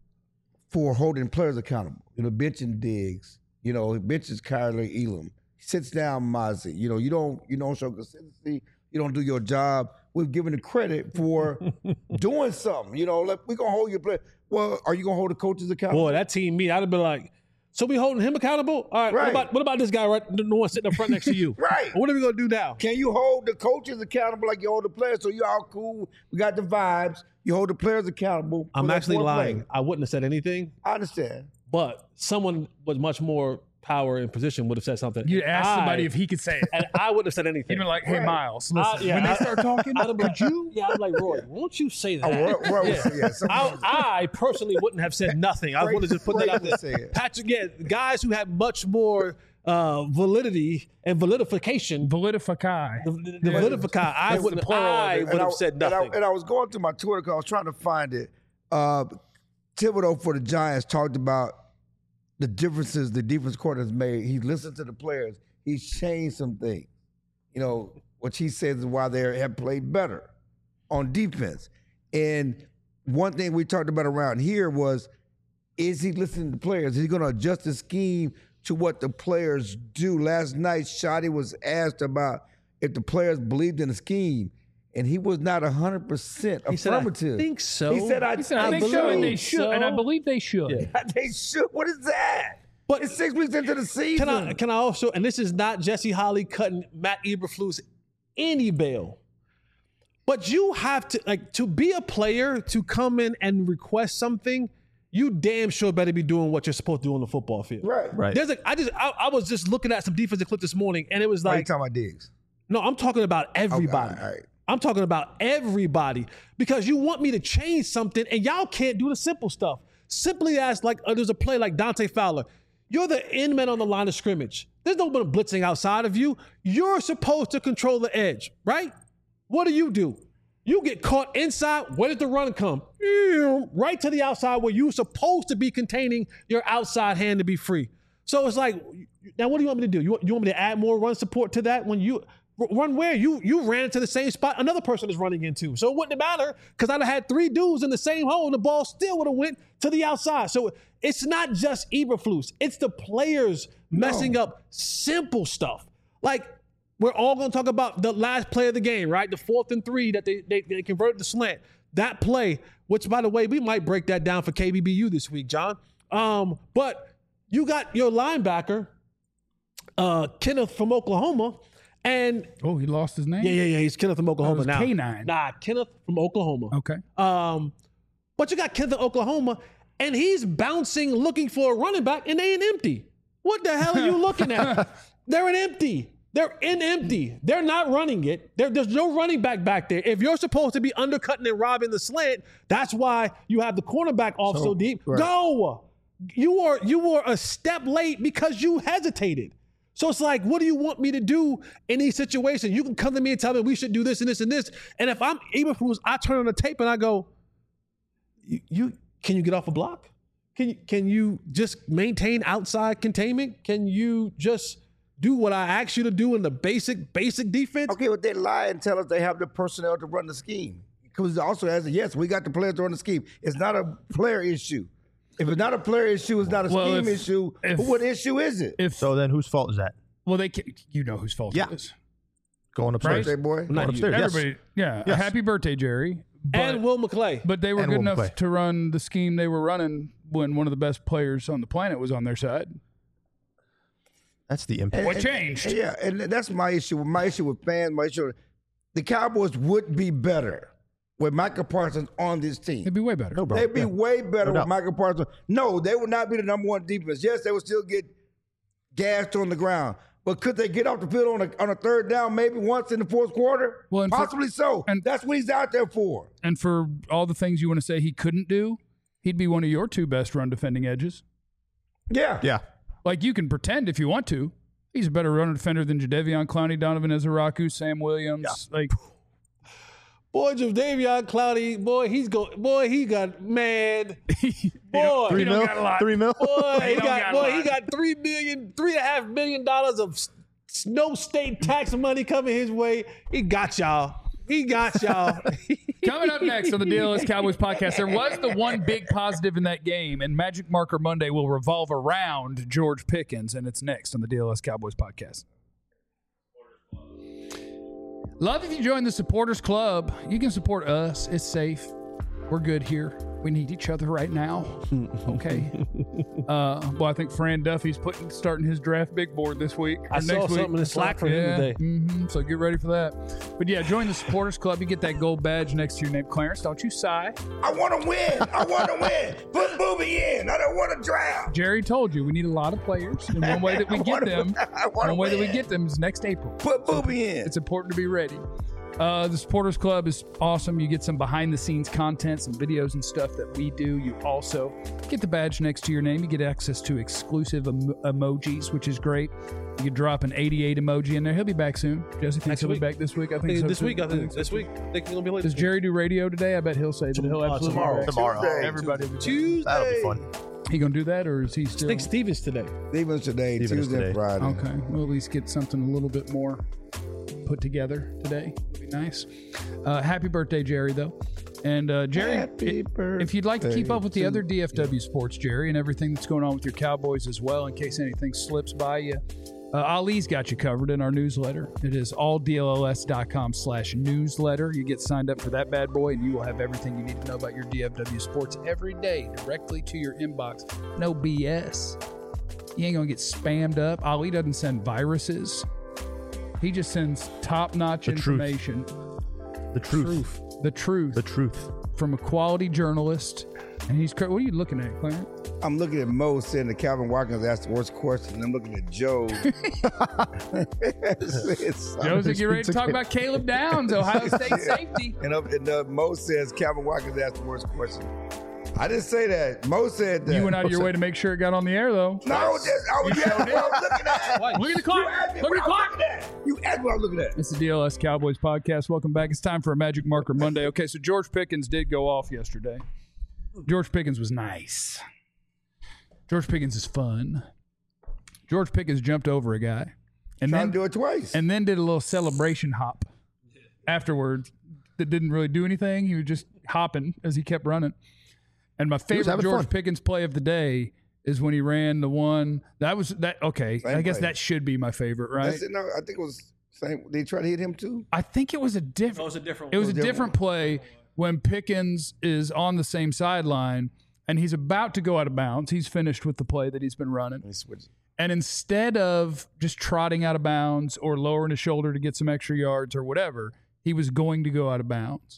for holding players accountable. You know, benching Diggs. You know, he benches Kyler Elam. He sits down Mozzie. You know, you don't you don't show consistency. You don't do your job. We've given the credit for doing something. You know, like we're gonna hold your player. Well, are you gonna hold the coaches accountable? Boy, that team, me, I'd have been like, so we holding him accountable? All right, Right. What, about, what about this guy right the one sitting up front next to you? Right. What are we going to do now? Can you hold the coaches accountable like you hold the players? So you all cool. We got the vibes. You hold the players accountable. for I'm that actually foreplay. lying. I wouldn't have said anything, I understand. but someone with much more power and position would have said something. You And asked somebody I- if he could say it. and I wouldn't have said anything. You'd been like, hey, Right. Miles, listen, I- yeah, when they I- start talking, I'd have been could like, you? Yeah, I'm like, Roy, won't you say that? Oh, Roy- Roy was- yeah, something I, was- I personally wouldn't have said nothing. I Right. would have just put that Right. out there. Say it. Patrick, yeah, guys who have much more uh, validity and validification. Validify. The, the, the validifica, I That's the wouldn't. plural of I it. would And have I- said and I, nothing. and I was going through my Twitter because I was trying to find it. Uh, Thibodeau for the Giants talked about the differences the defense coordinator has made. He listened to the players. He's changed some things, you know, which he says is why they have played better on defense. And one thing we talked about around here was, is he listening to players? Is he going to adjust the scheme to what the players do? Last night, Shotty was asked about if the players believed in the scheme, and he was not one hundred percent He said, I affirmative. think so. He said, I, He said, I, think so, and they should, and I believe they should. Yeah. they should. What is that? But It's six weeks into the season. Can I can I also, and this is not Jesse Holly cutting Matt Eberflus any bail, but you have to, like, to be a player, to come in and request something, you damn sure better be doing what you're supposed to do on the football field. Right. Right. There's a, I just I, I was just looking at some defensive clip this morning, and it was Why are you like, talking about Diggs? no, I'm talking about everybody. Okay, all right. I'm talking about everybody, because you want me to change something and y'all can't do the simple stuff. Simply as, like, uh, there's a play like Dante Fowler. You're the end man on the line of scrimmage. There's no one blitzing outside of you. You're supposed to control the edge, right? What do you do? You get caught inside. Where did the run come? Right to the outside where you're supposed to be containing your outside hand to be free. So it's like, now what do you want me to do? You want, you want me to add more run support to that when you run where? You you ran into the same spot another person is running into. So it wouldn't matter, because I'd have had three dudes in the same hole and the ball still would have went to the outside. So it's not just Eberflus. It's the players messing No. up simple stuff. Like, we're all going to talk about the last play of the game, right? The fourth and three that they, they, they converted to slant. That play, which, by the way, we might break that down for K B B U this week, John. Um, but you got your linebacker, uh, Kenneth from Oklahoma, and Oh, he lost his name? yeah, yeah, yeah, he's Kenneth from Oklahoma was now. K nine. Nah, Kenneth from Oklahoma. Okay. Um, But you got Kevin Oklahoma, and he's bouncing, looking for a running back, and they ain't empty. What the hell are you looking at? They're an empty. They're in empty. They're not running it. There, there's no running back back there. If you're supposed to be undercutting and robbing the slant, that's why you have the cornerback off so, so deep. Right. Go. You are you were a step late because you hesitated. So it's like, what do you want me to do in these situations? You can come to me and tell me we should do this and this and this. And if I'm Eberflus, I turn on the tape and I go, you, you can you get off a block? Can you, can you just maintain outside containment? Can you just do what I asked you to do in the basic, basic defense? Okay, but they lie and tell us they have the personnel to run the scheme. Because it also has a, yes, we got the players to run the scheme. It's not a player issue. If it's not a player issue, it's not a well, scheme if, issue. If, what issue is it? If, so then whose fault is that? Well, they can, you know whose fault yeah. it is. Going upstairs. Birthday boy. Going upstairs, yes. Everybody, yeah. Yes. Happy birthday, Jerry. But, and Will McClay. But they were and good Will enough McClay. to run the scheme they were running when one of the best players on the planet was on their side. That's the impact. What changed? And, yeah, and that's my issue. My issue with fans, my issue. The Cowboys would be better with Micah Parsons on this team. They'd be way better. No, bro. They'd be yeah. way better no with Micah Parsons. No, they would not be the number one defense. Yes, they would still get gassed on the ground. But could they get off the field on a, on a third down maybe once in the fourth quarter? Well, and for- possibly so. and- That's what he's out there for. And for all the things you want to say he couldn't do, he'd be one of your two best run defending edges. Yeah. Yeah. Like, you can pretend if you want to. He's a better run defender than Jadeveon Clowney, Donovan Ezeraku, Sam Williams. Yeah. Like, Boy, Jadeveon Clowney, boy, he's go, boy, he got mad. Boy, Three he don't mil? got a lot. Three mil? boy, he don't got, got a boy, lot. he got three million, three and a half million dollars of s- no state tax money coming his way. He got y'all. He got y'all. Coming up next on the D L S Cowboys podcast, there was the one big positive in that game, and Magic Marker Monday will revolve around George Pickens, and it's next on the D L S Cowboys podcast. Love if you join the Supporters Club. You can support us. It's safe. We're good here. We need each other right now. Okay. uh, well, I think Fran Duffy's putting starting his draft big board this week. I or saw next week. something in Slack for him Yeah. today. Mm-hmm. So get ready for that. But yeah, join the Supporters Club. You get that gold badge next to your name, Clarence. Don't you sigh. I want to win. I want to win. Put Booby in. I don't want to draft. Jerry told you we need a lot of players, and one way that we I get wanna- them, I wanna one way that we win. get them is next April. Put Booby in. It's important to be ready. Uh, the Supporters Club is awesome. You get some behind-the-scenes content, some videos and stuff that we do. You also get the badge next to your name. You get access to exclusive em- emojis, which is great. You can drop an eighty-eight emoji in there. He'll be back soon. Jesse thinks Next he'll week. be back this week. I I think think so this too. week, I think this week. I think he's gonna be late. Does Jerry do radio today? I bet he'll say that he'll Uh, absolutely tomorrow. be back. Tomorrow. Tuesday. Everybody will be back. Tuesday. That'll be fun. He gonna do that, or is he still? I think Stevens today. Stevens today, Stevens Tuesday, today. and Friday. Okay, we'll at least get something a little bit more put together today. It'd be nice. Uh, happy birthday, Jerry, though. And uh, Jerry, Happy i- if you'd like to keep birthday up with the to other D F W sports, Jerry, and everything that's going on with your Cowboys as well, in case anything slips by you, uh, Ali's got you covered in our newsletter. It is alldls.com slash newsletter. You get signed up for that bad boy, and you will have everything you need to know about your D F W sports every day directly to your inbox. No B S. You ain't going to get spammed up. Ali doesn't send viruses. He just sends top-notch The truth. information. The truth. The truth. The truth. From a quality journalist. And he's, cra- what are you looking at, Clarence? I'm looking at Mo saying that Calvin Watkins asked the worst question, and I'm looking at Joe. It's- it's- Joe's get ready to talk about Caleb Downs, Ohio State safety. And, up, and uh, Mo says Calvin Watkins asked the worst question. I didn't say that. Mo said that. You went out of your way to make sure it got on the air, though. No, I was just, I was, yeah, what I was looking at. Look at the clock. You asked me Look what at the I was clock. looking at. You asked what I was looking at. It's the D L S Cowboys podcast. Welcome back. It's time for a Magic Marker Monday. Okay, so George Pickens did go off yesterday. George Pickens was nice. George Pickens is fun. George Pickens jumped over a guy. And Trying then, to do it twice. and then did a little celebration hop afterwards that didn't really do anything. He was just hopping as he kept running. And my favorite having George fun. Pickens play of the day is when he ran the one that was that okay. Same I guess play. that should be my favorite, right? That's it. No, I think it was same. They tried to hit him too. I think it was a different. It was a different It was a It was different play when Pickens is on the same sideline and he's about to go out of bounds. He's finished with the play that he's been running. He switched. And instead of just trotting out of bounds or lowering his shoulder to get some extra yards or whatever, he was going to go out of bounds.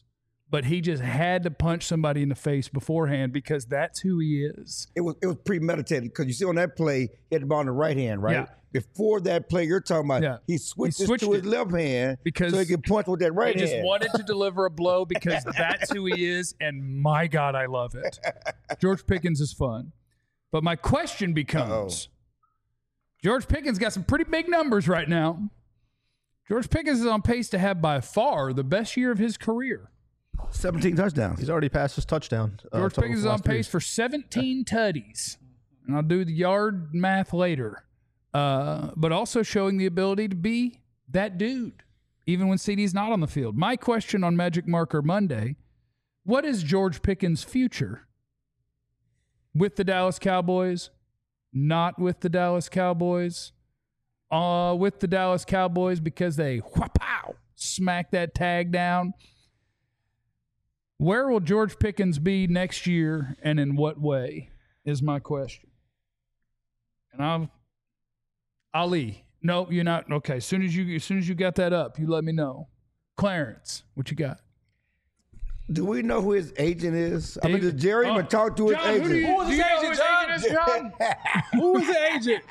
but he just had to punch somebody in the face beforehand because that's who he is. It was it was premeditated because you see on that play, he had the ball in the right hand, right? Yeah. Before that play you're talking about, Yeah. he switched, He it switched to his it left hand because so he could punch with that right He hand. just wanted to deliver a blow because that's who he is, and my God, I love it. George Pickens is fun. But my question becomes, George Pickens got some pretty big numbers right now. George Pickens is on pace to have by far the best year of his career. seventeen touchdowns. He's already passed his touchdown. uh, George total Pickens is for the on last three pace for seventeen tutties. And I'll do the yard math later. Uh, but also showing the ability to be that dude, even when C D's not on the field. My question on Magic Marker Monday, what is George Pickens' future? With the Dallas Cowboys? Not with the Dallas Cowboys? Uh, with the Dallas Cowboys because they wha-pow, smack that tag down? Where will George Pickens be next year, and in what way, is my question. And I'll, Ali, no, you're not. Okay, as soon as you as soon as you got that up, you let me know. Clarence, what you got? Do we know who his agent is? I mean, David- does Jerry even Oh, talk to his John, who agent? do you- Who was do his you know agent, who his John? agent is, John? Who was the agent?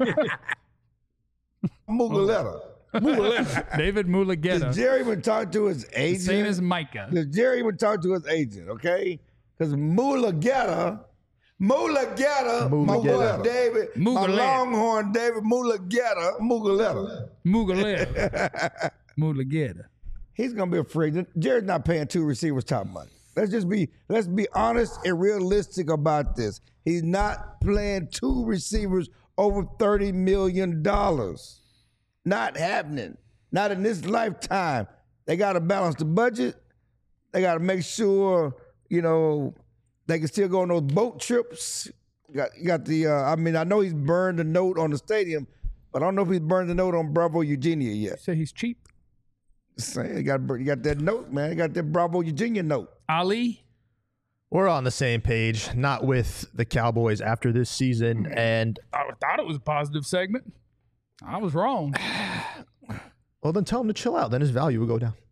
Mugaletta. David Mulugeta. Does Jerry even talk to his agent? Same as Micah. Does Jerry even talk to his agent? Okay, because Mulugeta, Mulugeta, my boy Mulugeta. David, my Mulugeta. Longhorn David Mulugeta, Mugaletta. Mulugeta. Mulugeta. He's gonna be afraid. Jerry's not paying two receivers top money. Let's just be let's be honest and realistic about this. He's not playing two receivers over thirty million dollars. Not happening. Not in this lifetime. They gotta balance the budget. They gotta make sure, you know, they can still go on those boat trips. You got, you got the uh, I mean, I know he's burned the note on the stadium, but I don't know if he's burned the note on Bravo Eugenia yet. Say he's cheap. Saying you got you got that note, man. You got that Bravo Eugenia note. Ali. We're on the same page, not with the Cowboys after this season. And, I thought it was a positive segment. I was wrong. well, then tell him to chill out. Then his value will go down.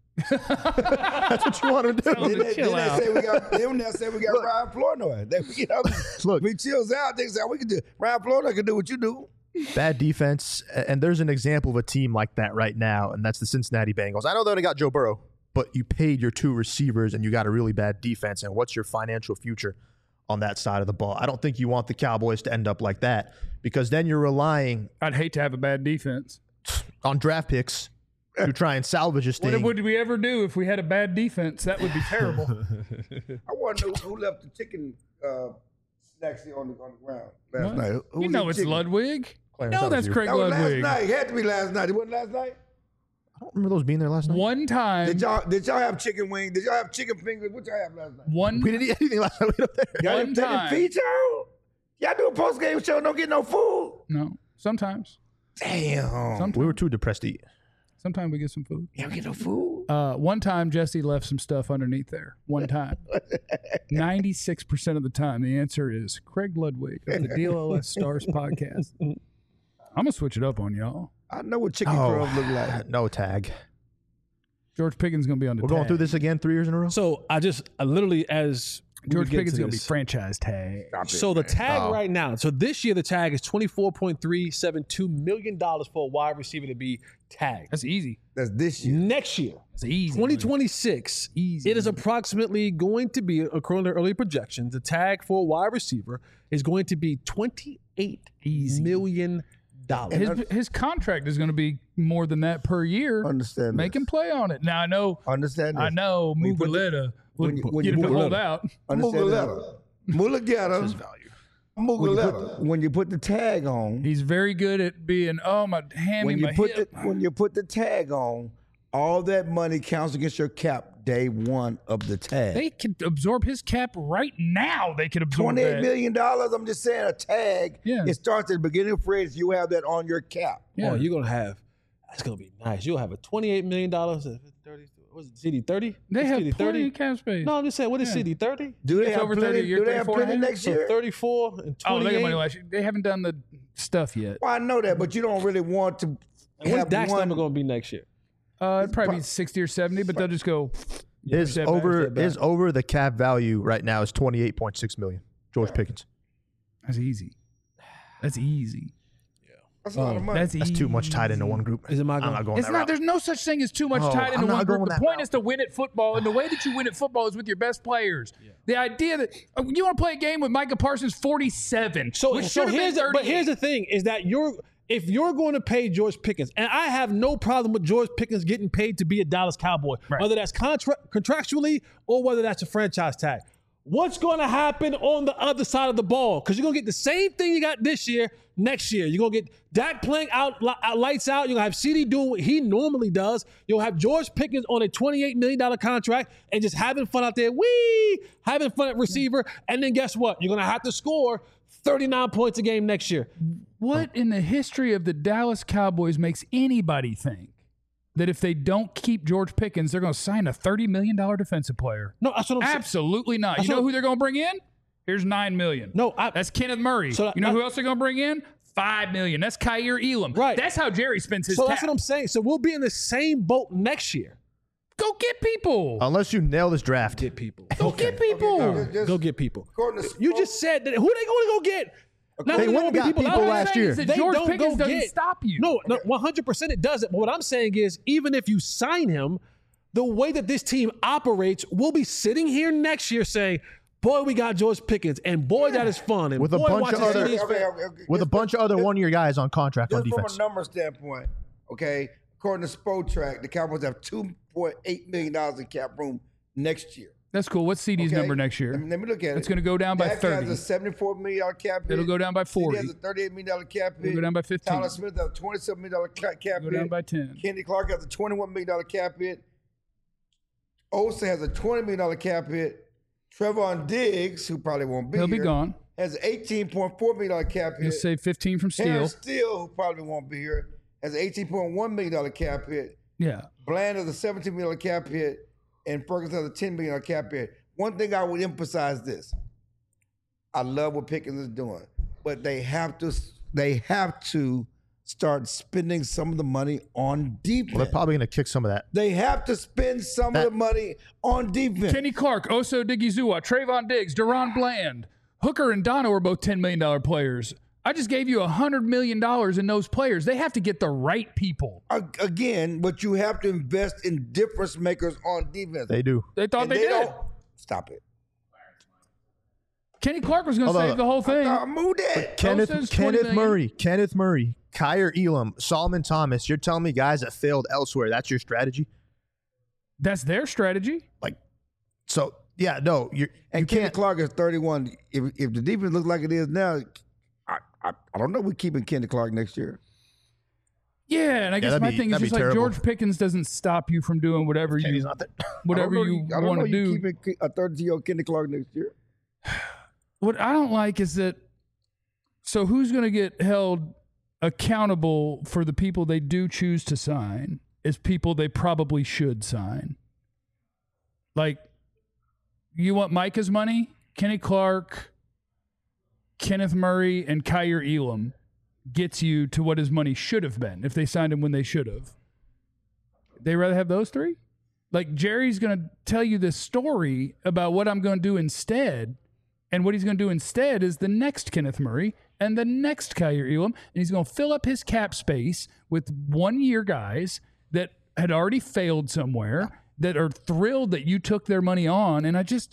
That's what you want him to do. Then they, chill then they out. say we got then they say we got Ryan Flournoy. They, you know, Look. if he chills out, they say we can do. Ryan Flournoy can do what you do. Bad defense. And there's an example of a team like that right now, and that's the Cincinnati Bengals. I know they only got Joe Burrow, but you paid your two receivers and you got a really bad defense. And what's your financial future on that side of the ball? I don't think you want the Cowboys to end up like that, because then you're relying I'd hate to have a bad defense. on draft picks to try and salvage this What thing. would we ever do if we had a bad defense? That would be terrible. I want to know who left the chicken uh, snacks here on the on the ground last What? night. Who You was know eating it's chicken? Ludwig. Clarence, No, that was that's you. Craig That was last Ludwig. night. It had to be last night. It wasn't last night. I don't remember those being there last night. One time. Did y'all did y'all have chicken wings? Did y'all have chicken fingers? What y'all have last night? One. We didn't eat anything last night. We were there. Y'all One didn't take time. a feed y'all? Y'all do a post game show? Don't get no food. No. Sometimes. Damn. Sometimes. We were too depressed to eat. Sometimes we get some food. Y'all get no food. Uh, one time, Jesse left some stuff underneath there. One time. ninety-six percent of the time, the answer is Craig Ludwig of the D L S Stars podcast. I'm going to switch it up on y'all. I know what chicken Oh, crumbs look like. no tag. George Pickens going to be on the We're going tag. through this again three years in a row. So I just I literally as we George get Pickens to going to be this- franchise tag. So the tag Oh. right now, so this year the tag is twenty-four point three seven two million dollars for a wide receiver to be tagged. That's easy. That's this year. Next year, That's easy. twenty twenty-six, Easy. it is approximately going to be, according to early projections, the tag for a wide receiver is going to be twenty-eight Easy. million dollars. His, his contract is going to be more than that per year. Understand Make this. him play on it. Now, I know Understand this. I know When you put the- Mugaleta when would you- when get you him to put- hold out. Understand this. Mulageta. Mulageta. When you, put the, when you put the tag on, He's very good at being, oh, my hand when in you my put hip. the when you put the tag on, all that money counts against your cap day one of the tag. They could absorb his cap right now. They could absorb Twenty-eight that. million dollars. I'm just saying a tag. Yeah. It starts at the beginning of phrase. You have that on your cap. Yeah. Oh, you're gonna have that's gonna be nice. You'll have a twenty-eight million dollars. thirty. Was it C D thirty? They have C D plenty thirty. of cap space. No, I'm just saying. What is Yeah. C D thirty? Do they It's have over plenty? thirty a year, do they have thirty-four and a plenty half? next So year? thirty-four and Oh, they got twenty-eight. money last year. They haven't done the stuff yet. Well, I know that, but you don't really want to And what's have Dak's one. number gonna be next year? Uh, it'd probably be sixty or seventy, but they'll just go, His Step back, over step back. his over the cap value right now is twenty eight point six million. George Pickens. That's easy. That's easy. That's a lot of money. That's That's easy. too much tied into one group. Is it my I'm going- not going It's that not. route. There's no such thing as too much No, tied into I'm not one going group. The that point route. is to win at football, and the way that you win at football is with your best players. The idea that uh, you want to play a game with Micah Parsons forty-seven, So, which so should have here's been the, but here's thirty-eight. the thing: is that you're if you're going to pay George Pickens, and I have no problem with George Pickens getting paid to be a Dallas Cowboy, Right. whether that's contra- contractually or whether that's a franchise tag. What's going to happen on the other side of the ball? Because you're going to get the same thing you got this year, next year. You're going to get Dak playing out, li- out lights out. You're going to have C D doing what he normally does. You'll have George Pickens on a twenty-eight million dollars contract and just having fun out there. Wee! Having fun at receiver. And then guess what? You're going to have to score thirty-nine points a game next year. What in the history of the Dallas Cowboys makes anybody think that if they don't keep George Pickens, they're going to sign a thirty million dollars defensive player? No, that's what I'm saying. Absolutely not. That's You know what- who they're going to bring in? Here's nine million dollars. No, I- That's Kenneth Murray. So you know I- who else they're going to bring in? five million dollars. That's Kyer Elam. Right. That's how Jerry spends his So cap. that's what I'm saying. So we'll be in the same boat next year. Go get people. Unless you nail this draft. Get people. Go get people. All right, Just- go get people. According to You just said that. Who they going to go get? Not They that went won't and got people out there. last year. That They George don't Pickens go doesn't get- stop you. No, no, one hundred percent it doesn't. But what I'm saying is, even if you sign him, the way that this team operates, we'll be sitting here next year saying, boy, we got George Pickens, and boy, that is fun. And With a boy, bunch watching of other- C D's Okay, okay, okay. With a Just- bunch of other just- one-year guys on contract on Just from defense. a number standpoint, okay, according to Spotrac, the Cowboys have two point eight million dollars in cap room next year. That's cool. What's C D's Okay? number next year? Let me, let me look at it. It's gonna go down by Dak thirty. has a seventy-four million dollars cap hit. It'll go down by forty. C D has a thirty-eight million dollars cap hit. It'll go down by fifteen. Tyler Smith has a twenty-seven million dollars ca- cap Go hit. down by ten. Kenny Clark has a twenty-one million dollars cap hit. Osa has a twenty million dollars cap hit. Trevon Diggs, who probably won't be He'll be here, gone. has an eighteen point four million dollars cap hit. You'll save fifteen from Steele. Terrence Steele, who probably won't be here, has an eighteen point one million dollars cap hit. Yeah. Bland has a seventeen million dollars cap hit, and Ferguson has a ten million dollars cap hit. One thing I would emphasize this: I love what Pickens is doing, but they have to they have to start spending some of the money on defense. Well, they're probably going to kick some of that. They have to spend some That- of the money on defense. Kenny Clark, Oso Digizua, Trayvon Diggs, Deron Bland, Hooker and Dono are both ten million dollars players. I just gave you one hundred million dollars in those players. They have to get the right people. A- Again, but you have to invest in difference makers on defense. They do. They thought And they, did. don't stop it. Kenny Clark was going to Hold on. save the whole thing. Uh, move that. Kenneth Osa's twenty Kenneth million. Murray, Kenneth Murray, Kyer Elam, Solomon Thomas. You're telling me guys that failed elsewhere. That's your strategy? That's their strategy. Like, so yeah, no, you're, And you Kenny can't. Clark is thirty-one. If if the defense looks like it is now, I I, I don't know. We're keeping Kenny Clark next year. Yeah, and I guess that'd my be- thing is that'd just be like terrible. George Pickens doesn't stop you from doing whatever He's you not there. whatever I don't know you I don't want know to you do. keeping a thirty-year-old Kenny Clark next year. What I don't like is that. So who's going to get held accountable for the people they do choose to sign? Is people they probably should sign. Like, you want Micah's money? Kenny Clark, Kenneth Murray, and Kyer Elam gets you to what his money should have been if they signed him when they should have. They rather have those three? Like, Jerry's going to tell you this story about what I'm going to do instead. And what he's going to do instead is the next Kenneth Murray and the next Kyer Elam. And he's going to fill up his cap space with one-year guys that had already failed somewhere, that are thrilled that you took their money on. And I just,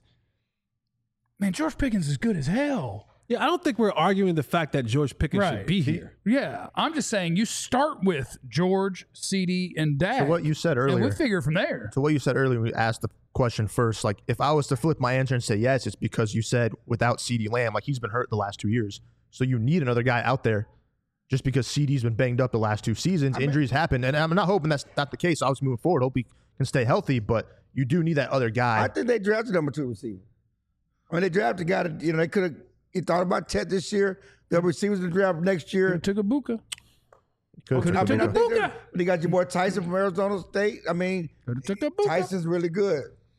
man, George Pickens is good as hell. Yeah, I don't think we're arguing the fact that George Pickens Right. should be here. Yeah, I'm just saying you start with George, C D, and Dak. So what you said and earlier. we figure from there. So what you said earlier when we asked the question first, like if I was to flip my answer and say yes, it's because you said without CeeDee Lamb, like he's been hurt the last two years. So you need another guy out there just because C D's been banged up the last two seasons. Injuries happen. And I'm not hoping that's not the case. I was moving forward. Hope he can stay healthy, but you do need that other guy. I think they drafted number two receiver. I mean, they drafted a guy that, you know, they could have, he thought about Ted this year. The receivers in the draft next year. Took a Buka. Could- I mean, I took a think Buka. they- they got your boy Tyson from Arizona State. I mean, Took a Buka. Tyson's really good.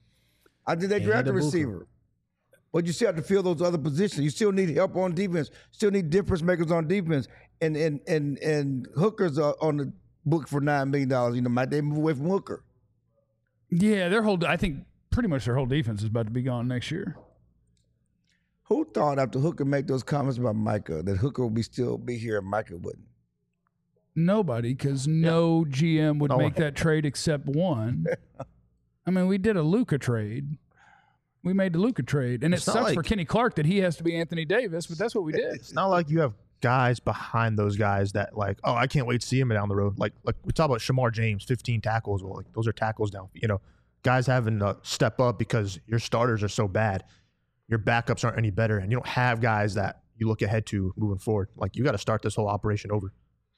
I think they drafted a Buka. receiver. But you still have to fill those other positions. You still need help on defense. Still need difference makers on defense. And and and and Hooker's uh, on the book for nine million dollars. You know, might they move away from Hooker? Yeah, their whole. I think pretty much their whole defense is about to be gone next year. Who thought after Hooker make those comments about Micah that Hooker would be still be here and Micah wouldn't? Nobody, because no G M would No make one. that trade except one. I mean, we did a Luka trade. We made the Luka trade, and It's it not sucks for like- Kenny Clark that he has to be Anthony Davis, but that's what we did. It's not like you have guys behind those guys that like, oh, I can't wait to see him down the road. Like, like we talk about Shamar James, fifteen tackles. Well, like those are tackles down. You know, guys having to step up because your starters are so bad, your backups aren't any better, and you don't have guys that you look ahead to moving forward. Like, you got to start this whole operation over.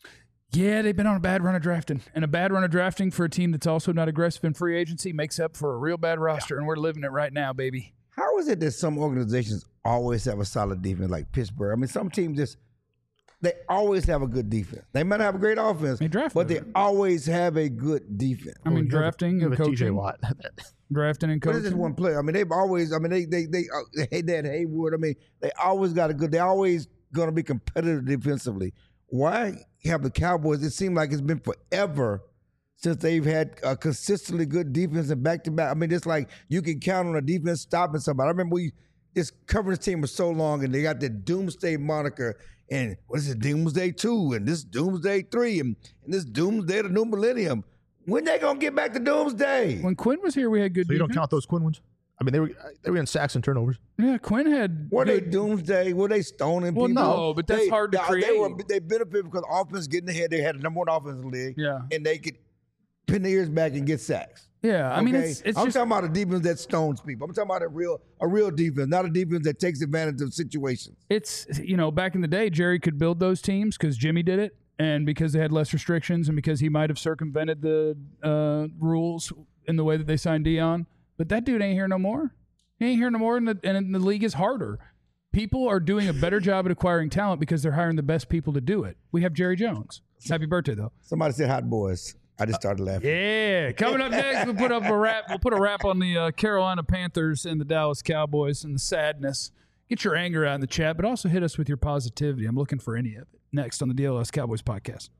Yeah, they've been on a bad run of drafting, and a bad run of drafting for a team that's also not aggressive in free agency makes up for a real bad roster, and we're living it right now, baby. How is it that some organizations always have a solid defense like Pittsburgh? I mean, some teams just they always have a good defense. They might not have a great offense, They draft but they better. always have a good defense. I mean, You have a- drafting you have and a T J coaching, Watt. drafting and But it's just coaching. one player. I mean, they've always. I mean, they they they uh, they had Haywood. I mean, they always got a good. They always going to be competitive defensively. Why have the Cowboys? It seems like it's been forever since they've had a consistently good defense and back to back. I mean, it's like you can count on a defense stopping somebody. I remember we just covering this team for so long, and they got the Doomsday moniker. And what is it, Doomsday two, and this Doomsday three, and, and this Doomsday the new millennium. When they gonna get back to Doomsday? When Quinn was here, we had good So you don't defense. count those Quinn ones? I mean, they were they were in sacks and turnovers. Yeah, Quinn had Were they good. Doomsday? Were they stoning Well, people? no, but that's They- hard to they- They, were, create. they benefit because offense getting ahead. They had the number one offense in the league. Yeah. And they could pin their ears back and get sacks. Yeah, I mean, Okay? it's, it's I'm just talking about a defense that stones people. I'm talking about a real a real defense, not a defense that takes advantage of situations. it's you know back in the day, Jerry could build those teams because Jimmy did it, and because they had less restrictions, and because he might have circumvented the uh, rules in the way that they signed Dion. But that dude ain't here no more. He ain't here no more, and the, and the league is harder. People are doing a better job at acquiring talent because they're hiring the best people to do it. We have Jerry Jones. Happy birthday, though. Somebody said hot boys. I just started laughing. Yeah, coming up next, we'll put up a wrap. We'll put a wrap on the uh, Carolina Panthers and the Dallas Cowboys and the sadness. Get your anger out in the chat, but also hit us with your positivity. I'm looking for any of it. Next on the D L S Cowboys podcast.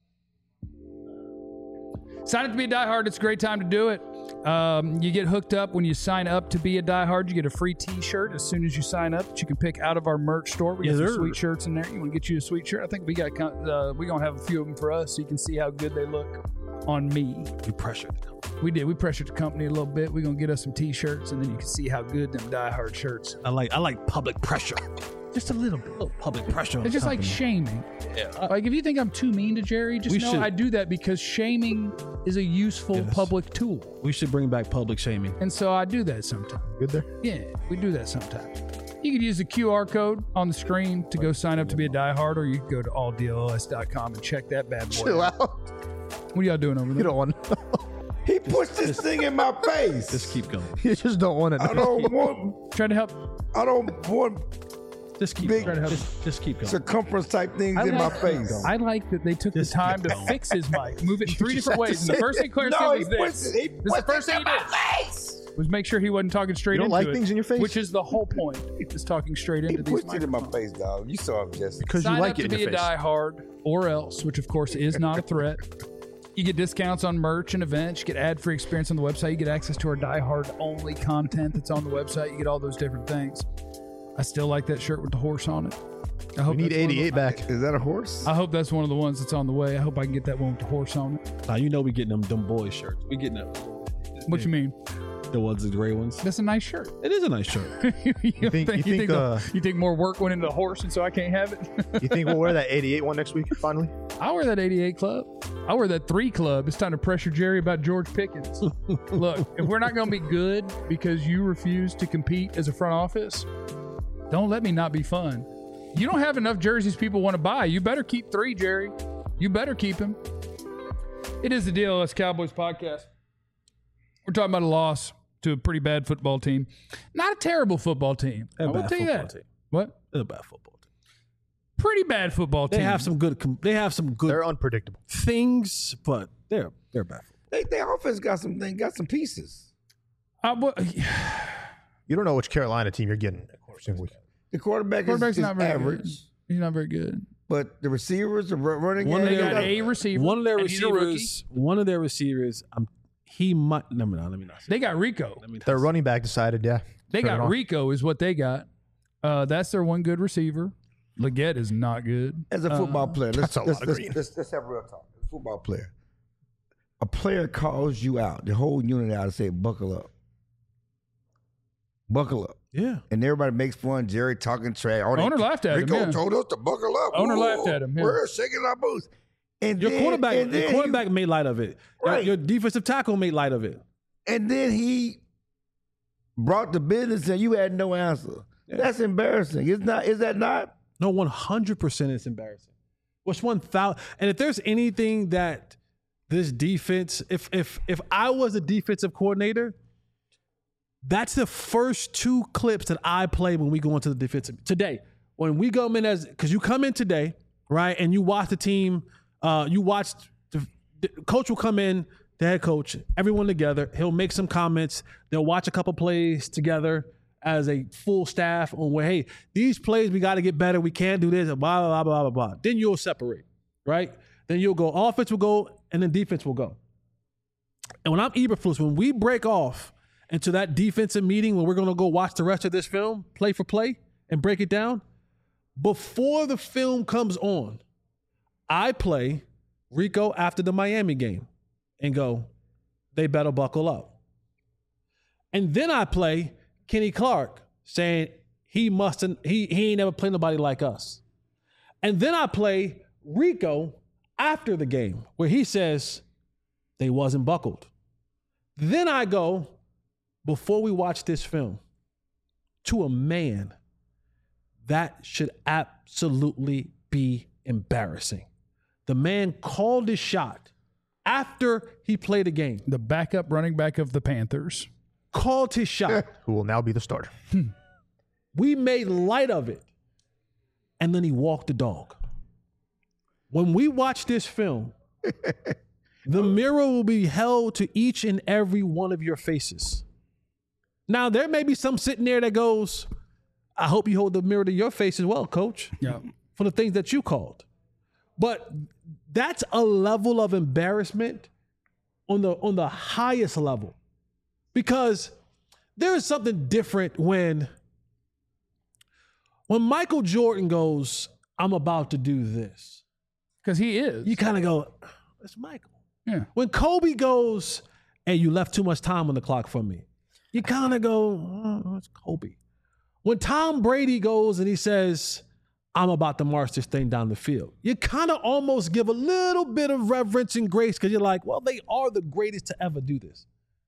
Sign up to be a diehard. It's a great time to do it. Um, you get hooked up when you sign up to be a diehard. You get a free T-shirt as soon as you sign up that you can pick out of our merch store. We got Yes, some sir. sweet shirts in there. You want to get you a sweet shirt? I think we got. Uh, we gonna have a few of them for us, so you can see how good they look on me. You pressured. We did. We pressured the company a little bit. We're gonna get us some T-shirts, and then you can see how good them diehard shirts. I like I like public pressure. Just a little bit. A little public pressure. on It's just the like company. shaming. Like if you think I'm too mean to Jerry, just We know should- I do that because shaming is a useful Yes. public tool, we should bring back public shaming. and so I do that sometimes. Good there. Yeah, we do that sometimes. You could use the Q R code on the screen to go sign up to be a diehard, or you can go to all D L S dot com and check that bad boy. Chill out. out. What are y'all doing over You there? don't want. He pushed this thing in my face. Just keep going. You just don't want it. I don't want. Trying to help. I don't want Just keep Big- going. Just, just keep going. circumference type things I in my like- face. I like that they took the Just time keep to going. fix his mic, move it in three just different have to ways. And the say first thing Claire No, said he was this. pushed it. He This is the pushed first it thing in he my did. face. Was make sure he wasn't talking straight You don't into like it, things in your face? which is the whole point. Is talking straight He into these pushed it in my microphones. face, dog. You saw him, Jesse. Because Sign you like up it to in be your a face. diehard, or else, which of course is not a threat. You get discounts on merch and events. You get ad-free experience on the website. You get access to our diehard-only content that's on the website. You get all those different things. I still like that shirt with the horse on it. I hope We need that's one of the- eighty-eight back. Is that a horse? I hope that's one of the ones that's on the way. I hope I can get that one with the horse on it. Now you know we getting them them boy shirts. We getting them. What you mean? The ones, the gray ones. That's a nice shirt. It is a nice shirt. you, You think- you think, the- uh, you think more work went into the horse, and so I can't have it? You think we'll wear that eighty-eight one next week? Finally. I wear that eighty-eight club. I wear that three club. It's time to pressure Jerry about George Pickens. Look, if we're not going to be good because you refuse to compete as a front office, don't let me not be fun. You don't have enough jerseys people want to buy. You better keep three, Jerry. You better keep him. It is the D L S Cowboys podcast. We're talking about a loss to a pretty bad football team. Not a terrible football team. They're I a will bad tell you football that. team. What? They're a bad football team. Pretty bad football They team. have some good. com- They have some good They're unpredictable. things, but they're they're a bad. Football. They, their offense got some thing, got some pieces. Uh, well, You don't know which Carolina team you're getting every single week. The quarterback is, quarterback's is not very average, good. He's not very good. but the receivers, the ru- running One of game, They their- got got- a receiver. One of their and he's a rookie. receivers. One of their receivers. Um, he might. No, no, let me not say They got Rico. Let me not Their say- running back decided, yeah. They Turn it got on. Rico is what they got. Uh, that's their one good receiver. Leggett is not good. As a football player, let's, that's a lot let's, of let's, green. let's, let's have real talk. As a football player, a player calls you out, the whole unit out, and say, "Buckle up, buckle up," Yeah. and everybody makes fun. Jerry talking trash. Oh, Owner they- laughed at him, Rico yeah. told us to buckle up. Owner Whoa, laughed at him, yeah. We're shaking our boots. And Your then, quarterback, and your then quarterback made light of it. Your- Right. Your defensive tackle made light of it. He, and then he brought the business, and you had no answer. That's embarrassing. It's not. Is that not? No, one hundred percent it's embarrassing. What's one thousand? And if there's anything that this defense, if if if I was a defensive coordinator, that's the first two clips that I play when we go into the defensive today. When we go in as, because you come in today, right, and you watch the team, uh, you watch the, the coach will come in, the head coach, everyone together. He'll make some comments. They'll watch a couple plays together as a full staff on where, hey, these plays we got to get better. We can't do this. Blah blah blah blah blah blah. Then you'll separate, right? Then you'll go offense will go, and then defense will go. And when I'm Eberflus, when we break off into that defensive meeting where we're going to go watch the rest of this film, play for play, and break it down, before the film comes on, I play Rico after the Miami game and go, they better buckle up. And then I play Kenny Clark saying he mustn't, he, he ain't never played nobody like us. And then I play Rico after the game where he says they wasn't buckled. Then I go, before we watch this film, to a man, that should absolutely be embarrassing. The man called his shot after he played a game, The backup running back of the Panthers. called his shot. Who will now be the starter. We made light of it. And then he walked the dog. When we watch this film, the mirror will be held to each and every one of your faces. Now, there may be some sitting there that goes, I hope you hold the mirror to your face as well, coach, Yeah. for the things that you called. But that's a level of embarrassment on the on the highest level. Because there is something different when when Michael Jordan goes, I'm about to do this. Because he is. You kind of go, it's Michael. yeah. When Kobe goes, hey, you left too much time on the clock for me, you kind of go, oh, it's Kobe. When Tom Brady goes and he says, I'm about to march this thing down the field, you kind of almost give a little bit of reverence and grace because you're like, well, they are the greatest to ever do this.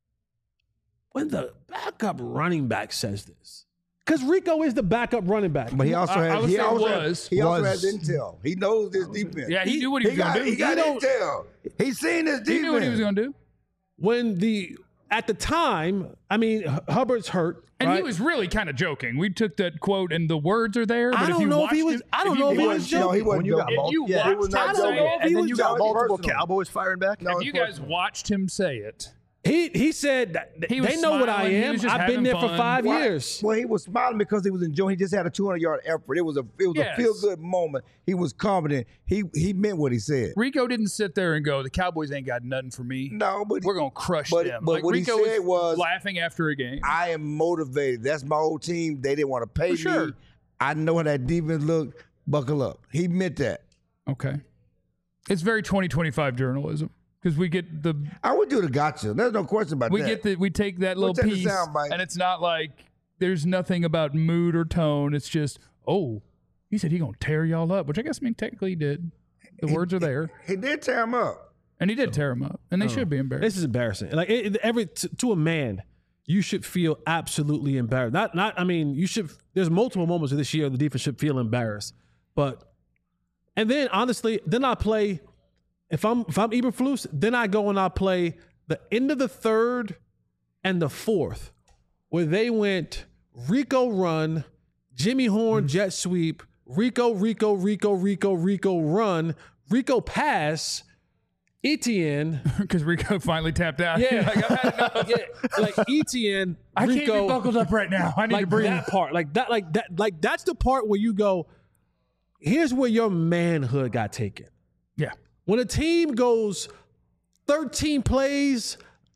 When the backup running back says this, because Rico is the backup running back. But he also I- I has. would He say also was. has. He also Was. has intel. He knows this defense. Yeah, he, knew what he, He was going got. to do. He got don't- intel. He's seen this defense. He knew what he was going to do. When the, at the time, I mean, H- Hubbard's hurt. And right? he was really kind of joking. We took that quote and the words are there. But I if don't you know if he watched was- it- I don't you know if he watched was it- No, he wasn't When you got joking. mul- If you yeah, he watched was not him joking. say it, he and then was you You got got joking. multiple personal. Cowboys firing back. No, if it's you guys personal. watched him say it, He he said that He was they know what I smiling. He am. was just I've been having there for fun. five Why? years. Well, he was smiling because he was enjoying. He just had a two hundred yard effort. It was a it was Yes. a feel good moment. He was confident. He he meant what he said. Rico didn't sit there and go, the Cowboys ain't got nothing for me. No, but We're going to crush but- them. but like, what he Rico said was- laughing after a game. I am motivated. That's my whole team. They didn't want to pay For sure. me. I know how that defense looked. Buckle up. He meant that. Okay. It's very twenty twenty-five journalism because we get the I would do the gotcha. There's no question about we that. get the we take that little take the piece soundbite. and it's not like there's nothing about mood or tone. It's just, oh, he said he gonna tear y'all up, which I guess I mean technically he did. The words are there, He did tear him up. and he did tear him up, and they should be embarrassed. This is embarrassing. Like it, it- every to, to a man, you should feel absolutely embarrassed. Not not. I mean, you should. There's multiple moments of this year the defense should feel embarrassed. But and then honestly, then I play. If I'm if I'm Eberflus, then I go and I play the end of the third and the fourth, where they went Rico run, Jimmy Horn jet sweep, Rico Rico Rico Rico Rico run, Rico pass, Etienne. Because Rico finally tapped out. Yeah, like, I've had enough. yeah, like Etienne, I can't be Rico, buckled up right now. I need to like breathe. that part, like that, like that, like that's the part where you go. Here's where your manhood got taken. Yeah. When a team goes thirteen plays,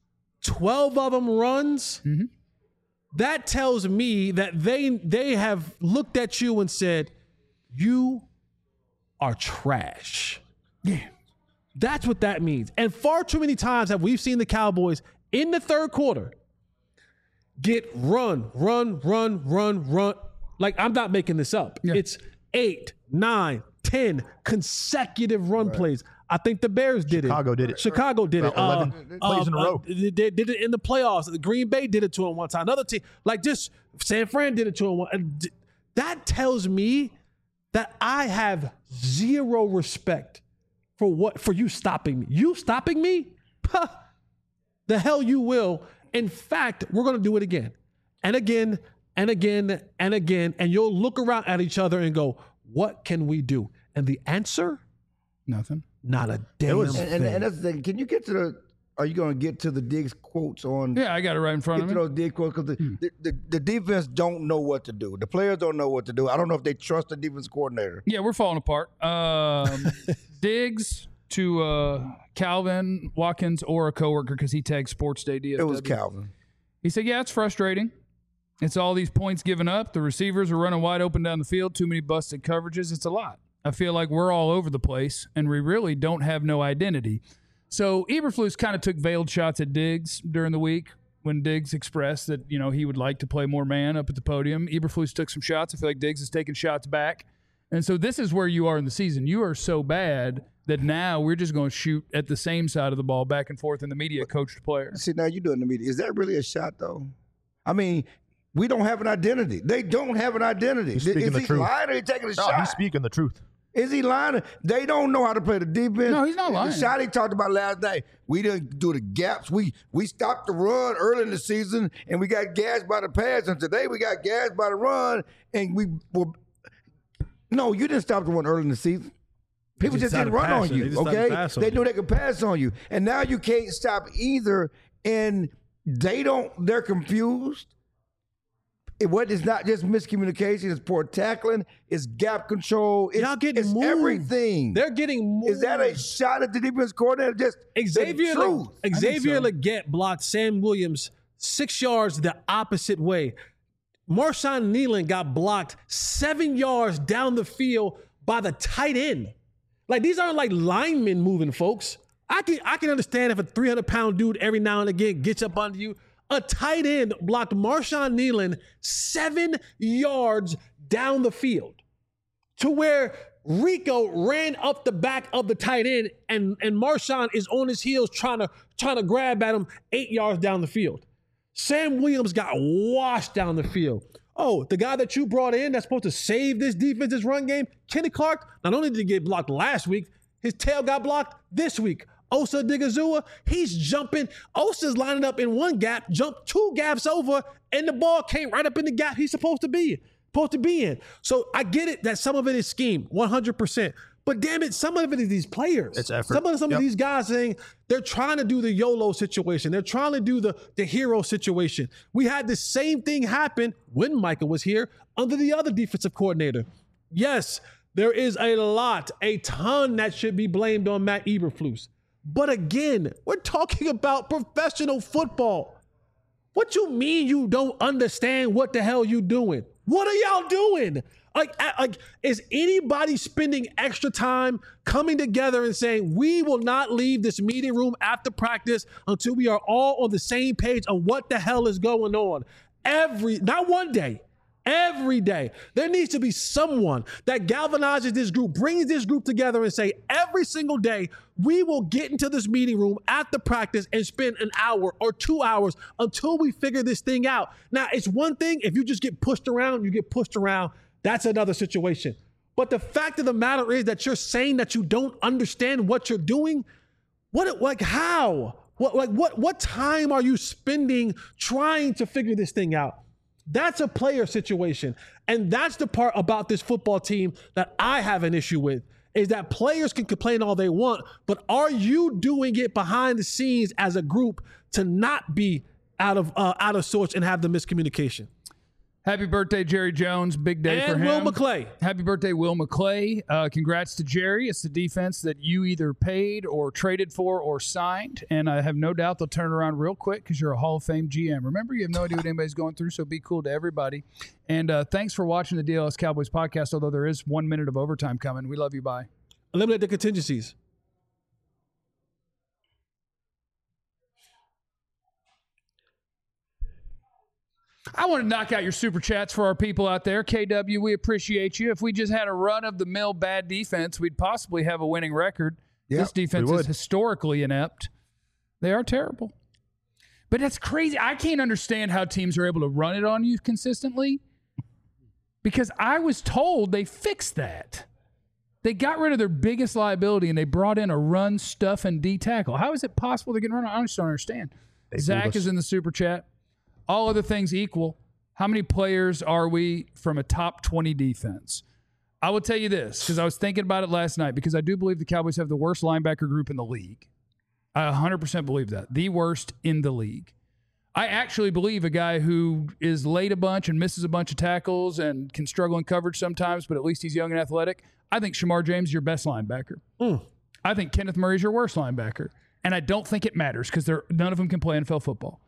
twelve of them runs, Mm-hmm. that tells me that they they have looked at you and said, you are trash. Yeah. That's what that means. And far too many times have we seen the Cowboys in the third quarter get run, run, run, run, run. Like, I'm not making this up. Yeah. It's eight, nine, ten consecutive run plays. I think the Bears did Chicago it. did it. Chicago did it. About eleven plays in a row. They they did it in the playoffs. The Green Bay did it to him one time. Another team, like just San Fran did it to him. One, and d- that tells me that I have zero respect for what for you stopping me. You stopping me? Puh, the hell you will. In fact, we're going to do it again and again and again and again. And you'll look around at each other and go, what can we do? And the answer? Nothing. Not a damn And, thing. and, and that's the thing. Can you get to the? Are you going to get to the Diggs quotes on? Yeah, I got it right in front Get of to me. those Diggs quotes because the, the, the, the defense don't know what to do. The players don't know what to do. I don't know if they trust the defense coordinator. Yeah, we're falling apart. Um, Diggs to uh, Calvin Watkins or a coworker because he tagged Sports Day D F W. It was Calvin. He said, yeah, it's frustrating. It's all these points given up. The receivers are running wide open down the field. Too many busted coverages. It's a lot. I feel like we're all over the place, and we really don't have no identity. So Eberflus kind of took veiled shots at Diggs during the week when Diggs expressed that, you know, he would like to play more man up at the podium. Eberflus took some shots. I feel like Diggs is taking shots back. And so this is where you are in the season. You are so bad that now we're just going to shoot at the same side of the ball back and forth in the media, coach to player. See, now you're doing the media. Is that really a shot, though? I mean, we don't have an identity. They don't have an identity. He's speaking Is the he truth. lying or he taking a No, shot? he's speaking the truth. Is he lying? They don't know how to play the defense. No, he's not lying. The shot he talked about last night, we didn't do the gaps. We we stopped the run early in the season, and we got gassed by the pass. And today we got gassed by the run, and we were. No, you didn't stop the run early in the season. People just just, didn't started run on passing. They you, just started okay? pass on They you. knew they could pass on you, and now you can't stop either. And they don't. They're confused. It what is not just miscommunication. It's poor tackling. It's gap control. It's, Y'all getting it's moved. everything. They're getting moved. Is that a shot at the defense coordinator? Just Xavier the truth. Le- Xavier so. Legette blocked Sam Williams six yards the opposite way. Marshawn Nealon got blocked seven yards down the field by the tight end. Like, these aren't like linemen moving, folks. I can I can understand if a three hundred pound dude every now and again gets up under you. A tight end blocked Marshawn Nealon seven yards down the field to where Rico ran up the back of the tight end and, and Marshawn is on his heels trying to trying to grab at him eight yards down the field. Sam Williams got washed down the field. Oh, the guy that you brought in that's supposed to save this defense's run game, Kenny Clark, not only did he get blocked last week, his tail got blocked this week. Osa Digazua, he's jumping. Osa's lining up in one gap, jumped two gaps over, and the ball came right up in the gap he's supposed to be, supposed to be in. So I get it that some of it is scheme, one hundred percent. But damn it, some of it is these players. It's effort. Some of some Yep. of these guys saying they're trying to do the YOLO situation. They're trying to do the, the hero situation. We had the same thing happen when Micah was here under the other defensive coordinator. Yes, there is a lot, a ton that should be blamed on Matt Eberflus. But again, we're talking about professional football. What you mean you don't understand what the hell you doing? What are y'all doing? Like, like, is anybody spending extra time coming together and saying, we will not leave this meeting room after practice until we are all on the same page on what the hell is going on? Every, not one day, every day. There needs to be someone that galvanizes this group, brings this group together and say, every single day, we will get into this meeting room after practice and spend an hour or two hours until we figure this thing out. Now, it's one thing if you just get pushed around, you get pushed around. That's another situation. But the fact of the matter is that you're saying that you don't understand what you're doing. What, like, how? What, like, what, what time are you spending trying to figure this thing out? That's a player situation. And that's the part about this football team that I have an issue with, is that players can complain all they want, but are you doing it behind the scenes as a group to not be out of uh, out of sorts and have the miscommunication? Happy birthday, Jerry Jones. Big day And for him. Will McClay. Happy birthday, Will McClay. Uh, congrats to Jerry. It's the defense that you either paid or traded for or signed. And I have no doubt they'll turn it around real quick because you're a Hall of Fame G M. Remember, you have no idea what anybody's going through, so be cool to everybody. And uh, thanks for watching the D L S Cowboys podcast, although there is one minute of overtime coming. We love you. Bye. Eliminate the contingencies. I want to knock out your super chats for our people out there. K W, we appreciate you. If we just had a run-of-the-mill bad defense, we'd possibly have a winning record. Yep, this defense is historically inept. They are terrible. But that's crazy. I can't understand how teams are able to run it on you consistently because I was told they fixed that. They got rid of their biggest liability and they brought in a run, stuff, and D tackle. How is it possible they can run? I just don't understand. They Zach is in the super chat. All other things equal, how many players are we from a top twenty defense? I will tell you this, because I was thinking about it last night, because I do believe the Cowboys have the worst linebacker group in the league. I one hundred percent believe that. The worst in the league. I actually believe a guy who is late a bunch and misses a bunch of tackles and can struggle in coverage sometimes, but at least he's young and athletic. I think Shamar James is your best linebacker. Mm. I think Kenneth Murray is your worst linebacker. And I don't think it matters because none of them can play N F L football.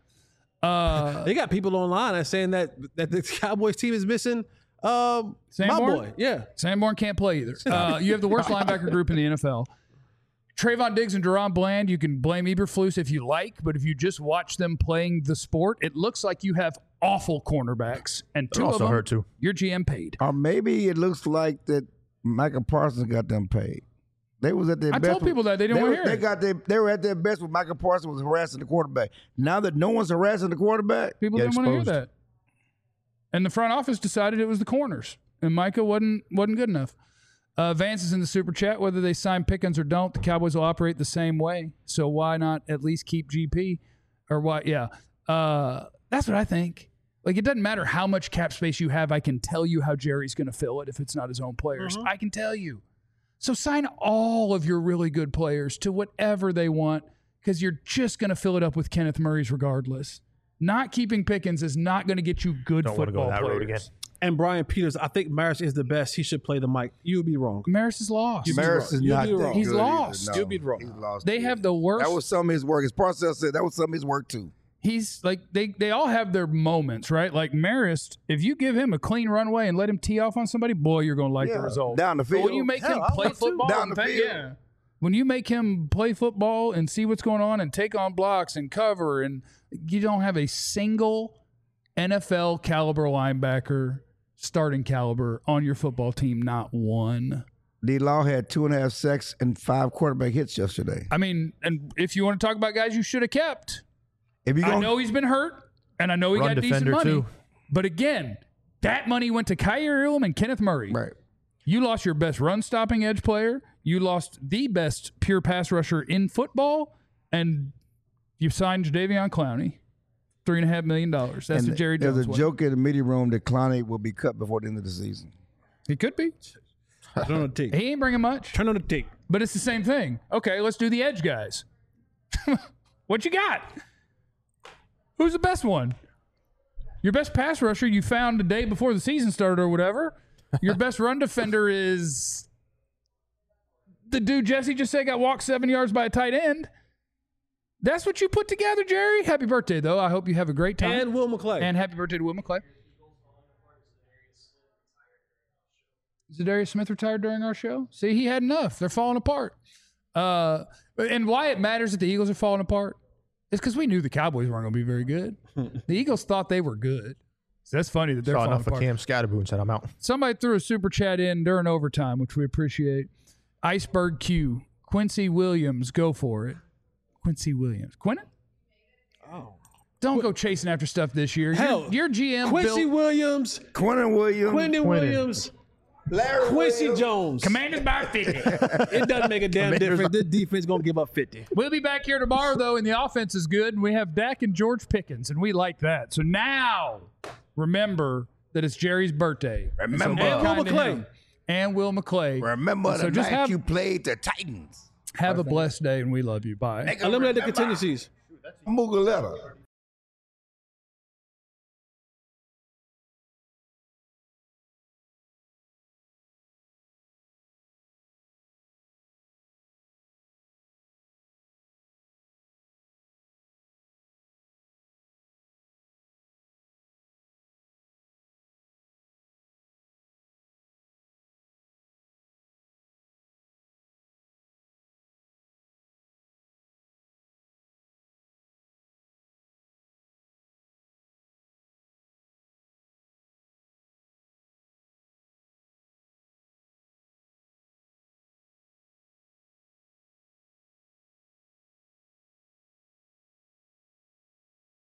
Uh, they got people online that's saying that that the Cowboys team is missing um, my Sanborn? boy. Yeah. Sanborn can't play either. Uh, you have the worst linebacker group in the N F L. Trayvon Diggs and Deron Bland, you can blame Eberflus if you like, but if you just watch them playing the sport, it looks like you have awful cornerbacks. And two They're of also them, hurt too. your G M paid. Or maybe it looks like that Micah Parsons got them paid. They was at their I best. told people that. They didn't they want to were- hear They it. got their, they were at their best when Micah Parsons was harassing the quarterback. Now that no one's harassing the quarterback, People Get didn't want to hear exposed. that. And the front office decided it was the corners. And Micah wasn't wasn't good enough. Uh, Vance is in the super chat. Whether they sign Pickens or don't, the Cowboys will operate the same way. So why not at least keep G P? Or why? Yeah. Uh, that's what I think. Like, it doesn't matter how much cap space you have. I can tell you how Jerry's going to fill it if it's not his own players. I can tell you. So sign all of your really good players to whatever they want because you're just going to fill it up with Kenneth Murray's regardless. Not keeping Pickens is not going to get you good Don't want to go football that players. road again. And Brian Peters, I think Maris is the best. He should play the mic. You would be wrong. Maris is lost. Maris is You'll not be that wrong. He's good lost. either. No, You'll be wrong. He's lost. They have the worst. That was some of his work. As Parcells said, that was some of his work too. He's like they they all have their moments, right? Like Marist, if you give him a clean runway and let him tee off on somebody, boy, you're going to like Yeah, the result. down the But when field. you make Hell, him I play would too. football, Down and the pa- field. yeah. When you make him play football and see what's going on and take on blocks and cover, and you don't have a single N F L caliber linebacker, starting caliber on your football team, not one. D. Law had two and a half sacks and five quarterback hits yesterday. I mean, and if you want to talk about guys you should have kept, If you I gonna, know he's been hurt, and I know he Run got decent defender, money. too. But again, that money went to Kyer Elam and Kenneth Murray. right. You lost your best run-stopping edge player. You lost the best pure pass rusher in football, and you signed Jadeveon Clowney, three and a half million dollars. That's And the Jerry There's Jones a way. joke in the media room that Clowney will be cut before the end of the season. He could be. Turn on the tape. He ain't bringing much, Turn on the tape. but it's the same thing. Okay, let's do the edge guys. What you got? Who's the best one? Your best pass rusher you found the day before the season started or whatever. Your best run defender is the dude Jesse just said got walked seven yards by a tight end. That's what you put together, Jerry. Happy birthday, though. I hope you have a great time. And Will McClay. And happy birthday to Will McClay. Zadarius Smith retired during our show? See, he had enough. They're falling apart. Uh, and why it matters that the Eagles are falling apart is because we knew the Cowboys weren't going to be very good. The Eagles thought they were good. So that's funny that they're Saw falling enough of apart. Cam Scatterboo and said, I'm out. Somebody threw a super chat in during overtime, which we appreciate. Iceberg Q. Quincy Williams, go for it. Quincy Williams. Quinton? Oh. Don't go chasing after stuff this year. Hell, your, your G M Quincy built Williams, Quentin Williams, Quentin Quentin. Williams, Larry Quincy Williams. Jones. Commanders by fifty. It doesn't make a damn Commanders difference. This defense going to give up fifty. We'll be back here tomorrow, though, and the offense is good, and we have Dak and George Pickens, and we like that. So now, remember that it's Jerry's birthday. And so Remember. be And Will kind to McClay. him. And Will McClay. Remember So the just night have- you played the Titans. Have a blessed day, and we love you. Bye. Make 'em Eliminate the remember. contingencies. Mugaletta.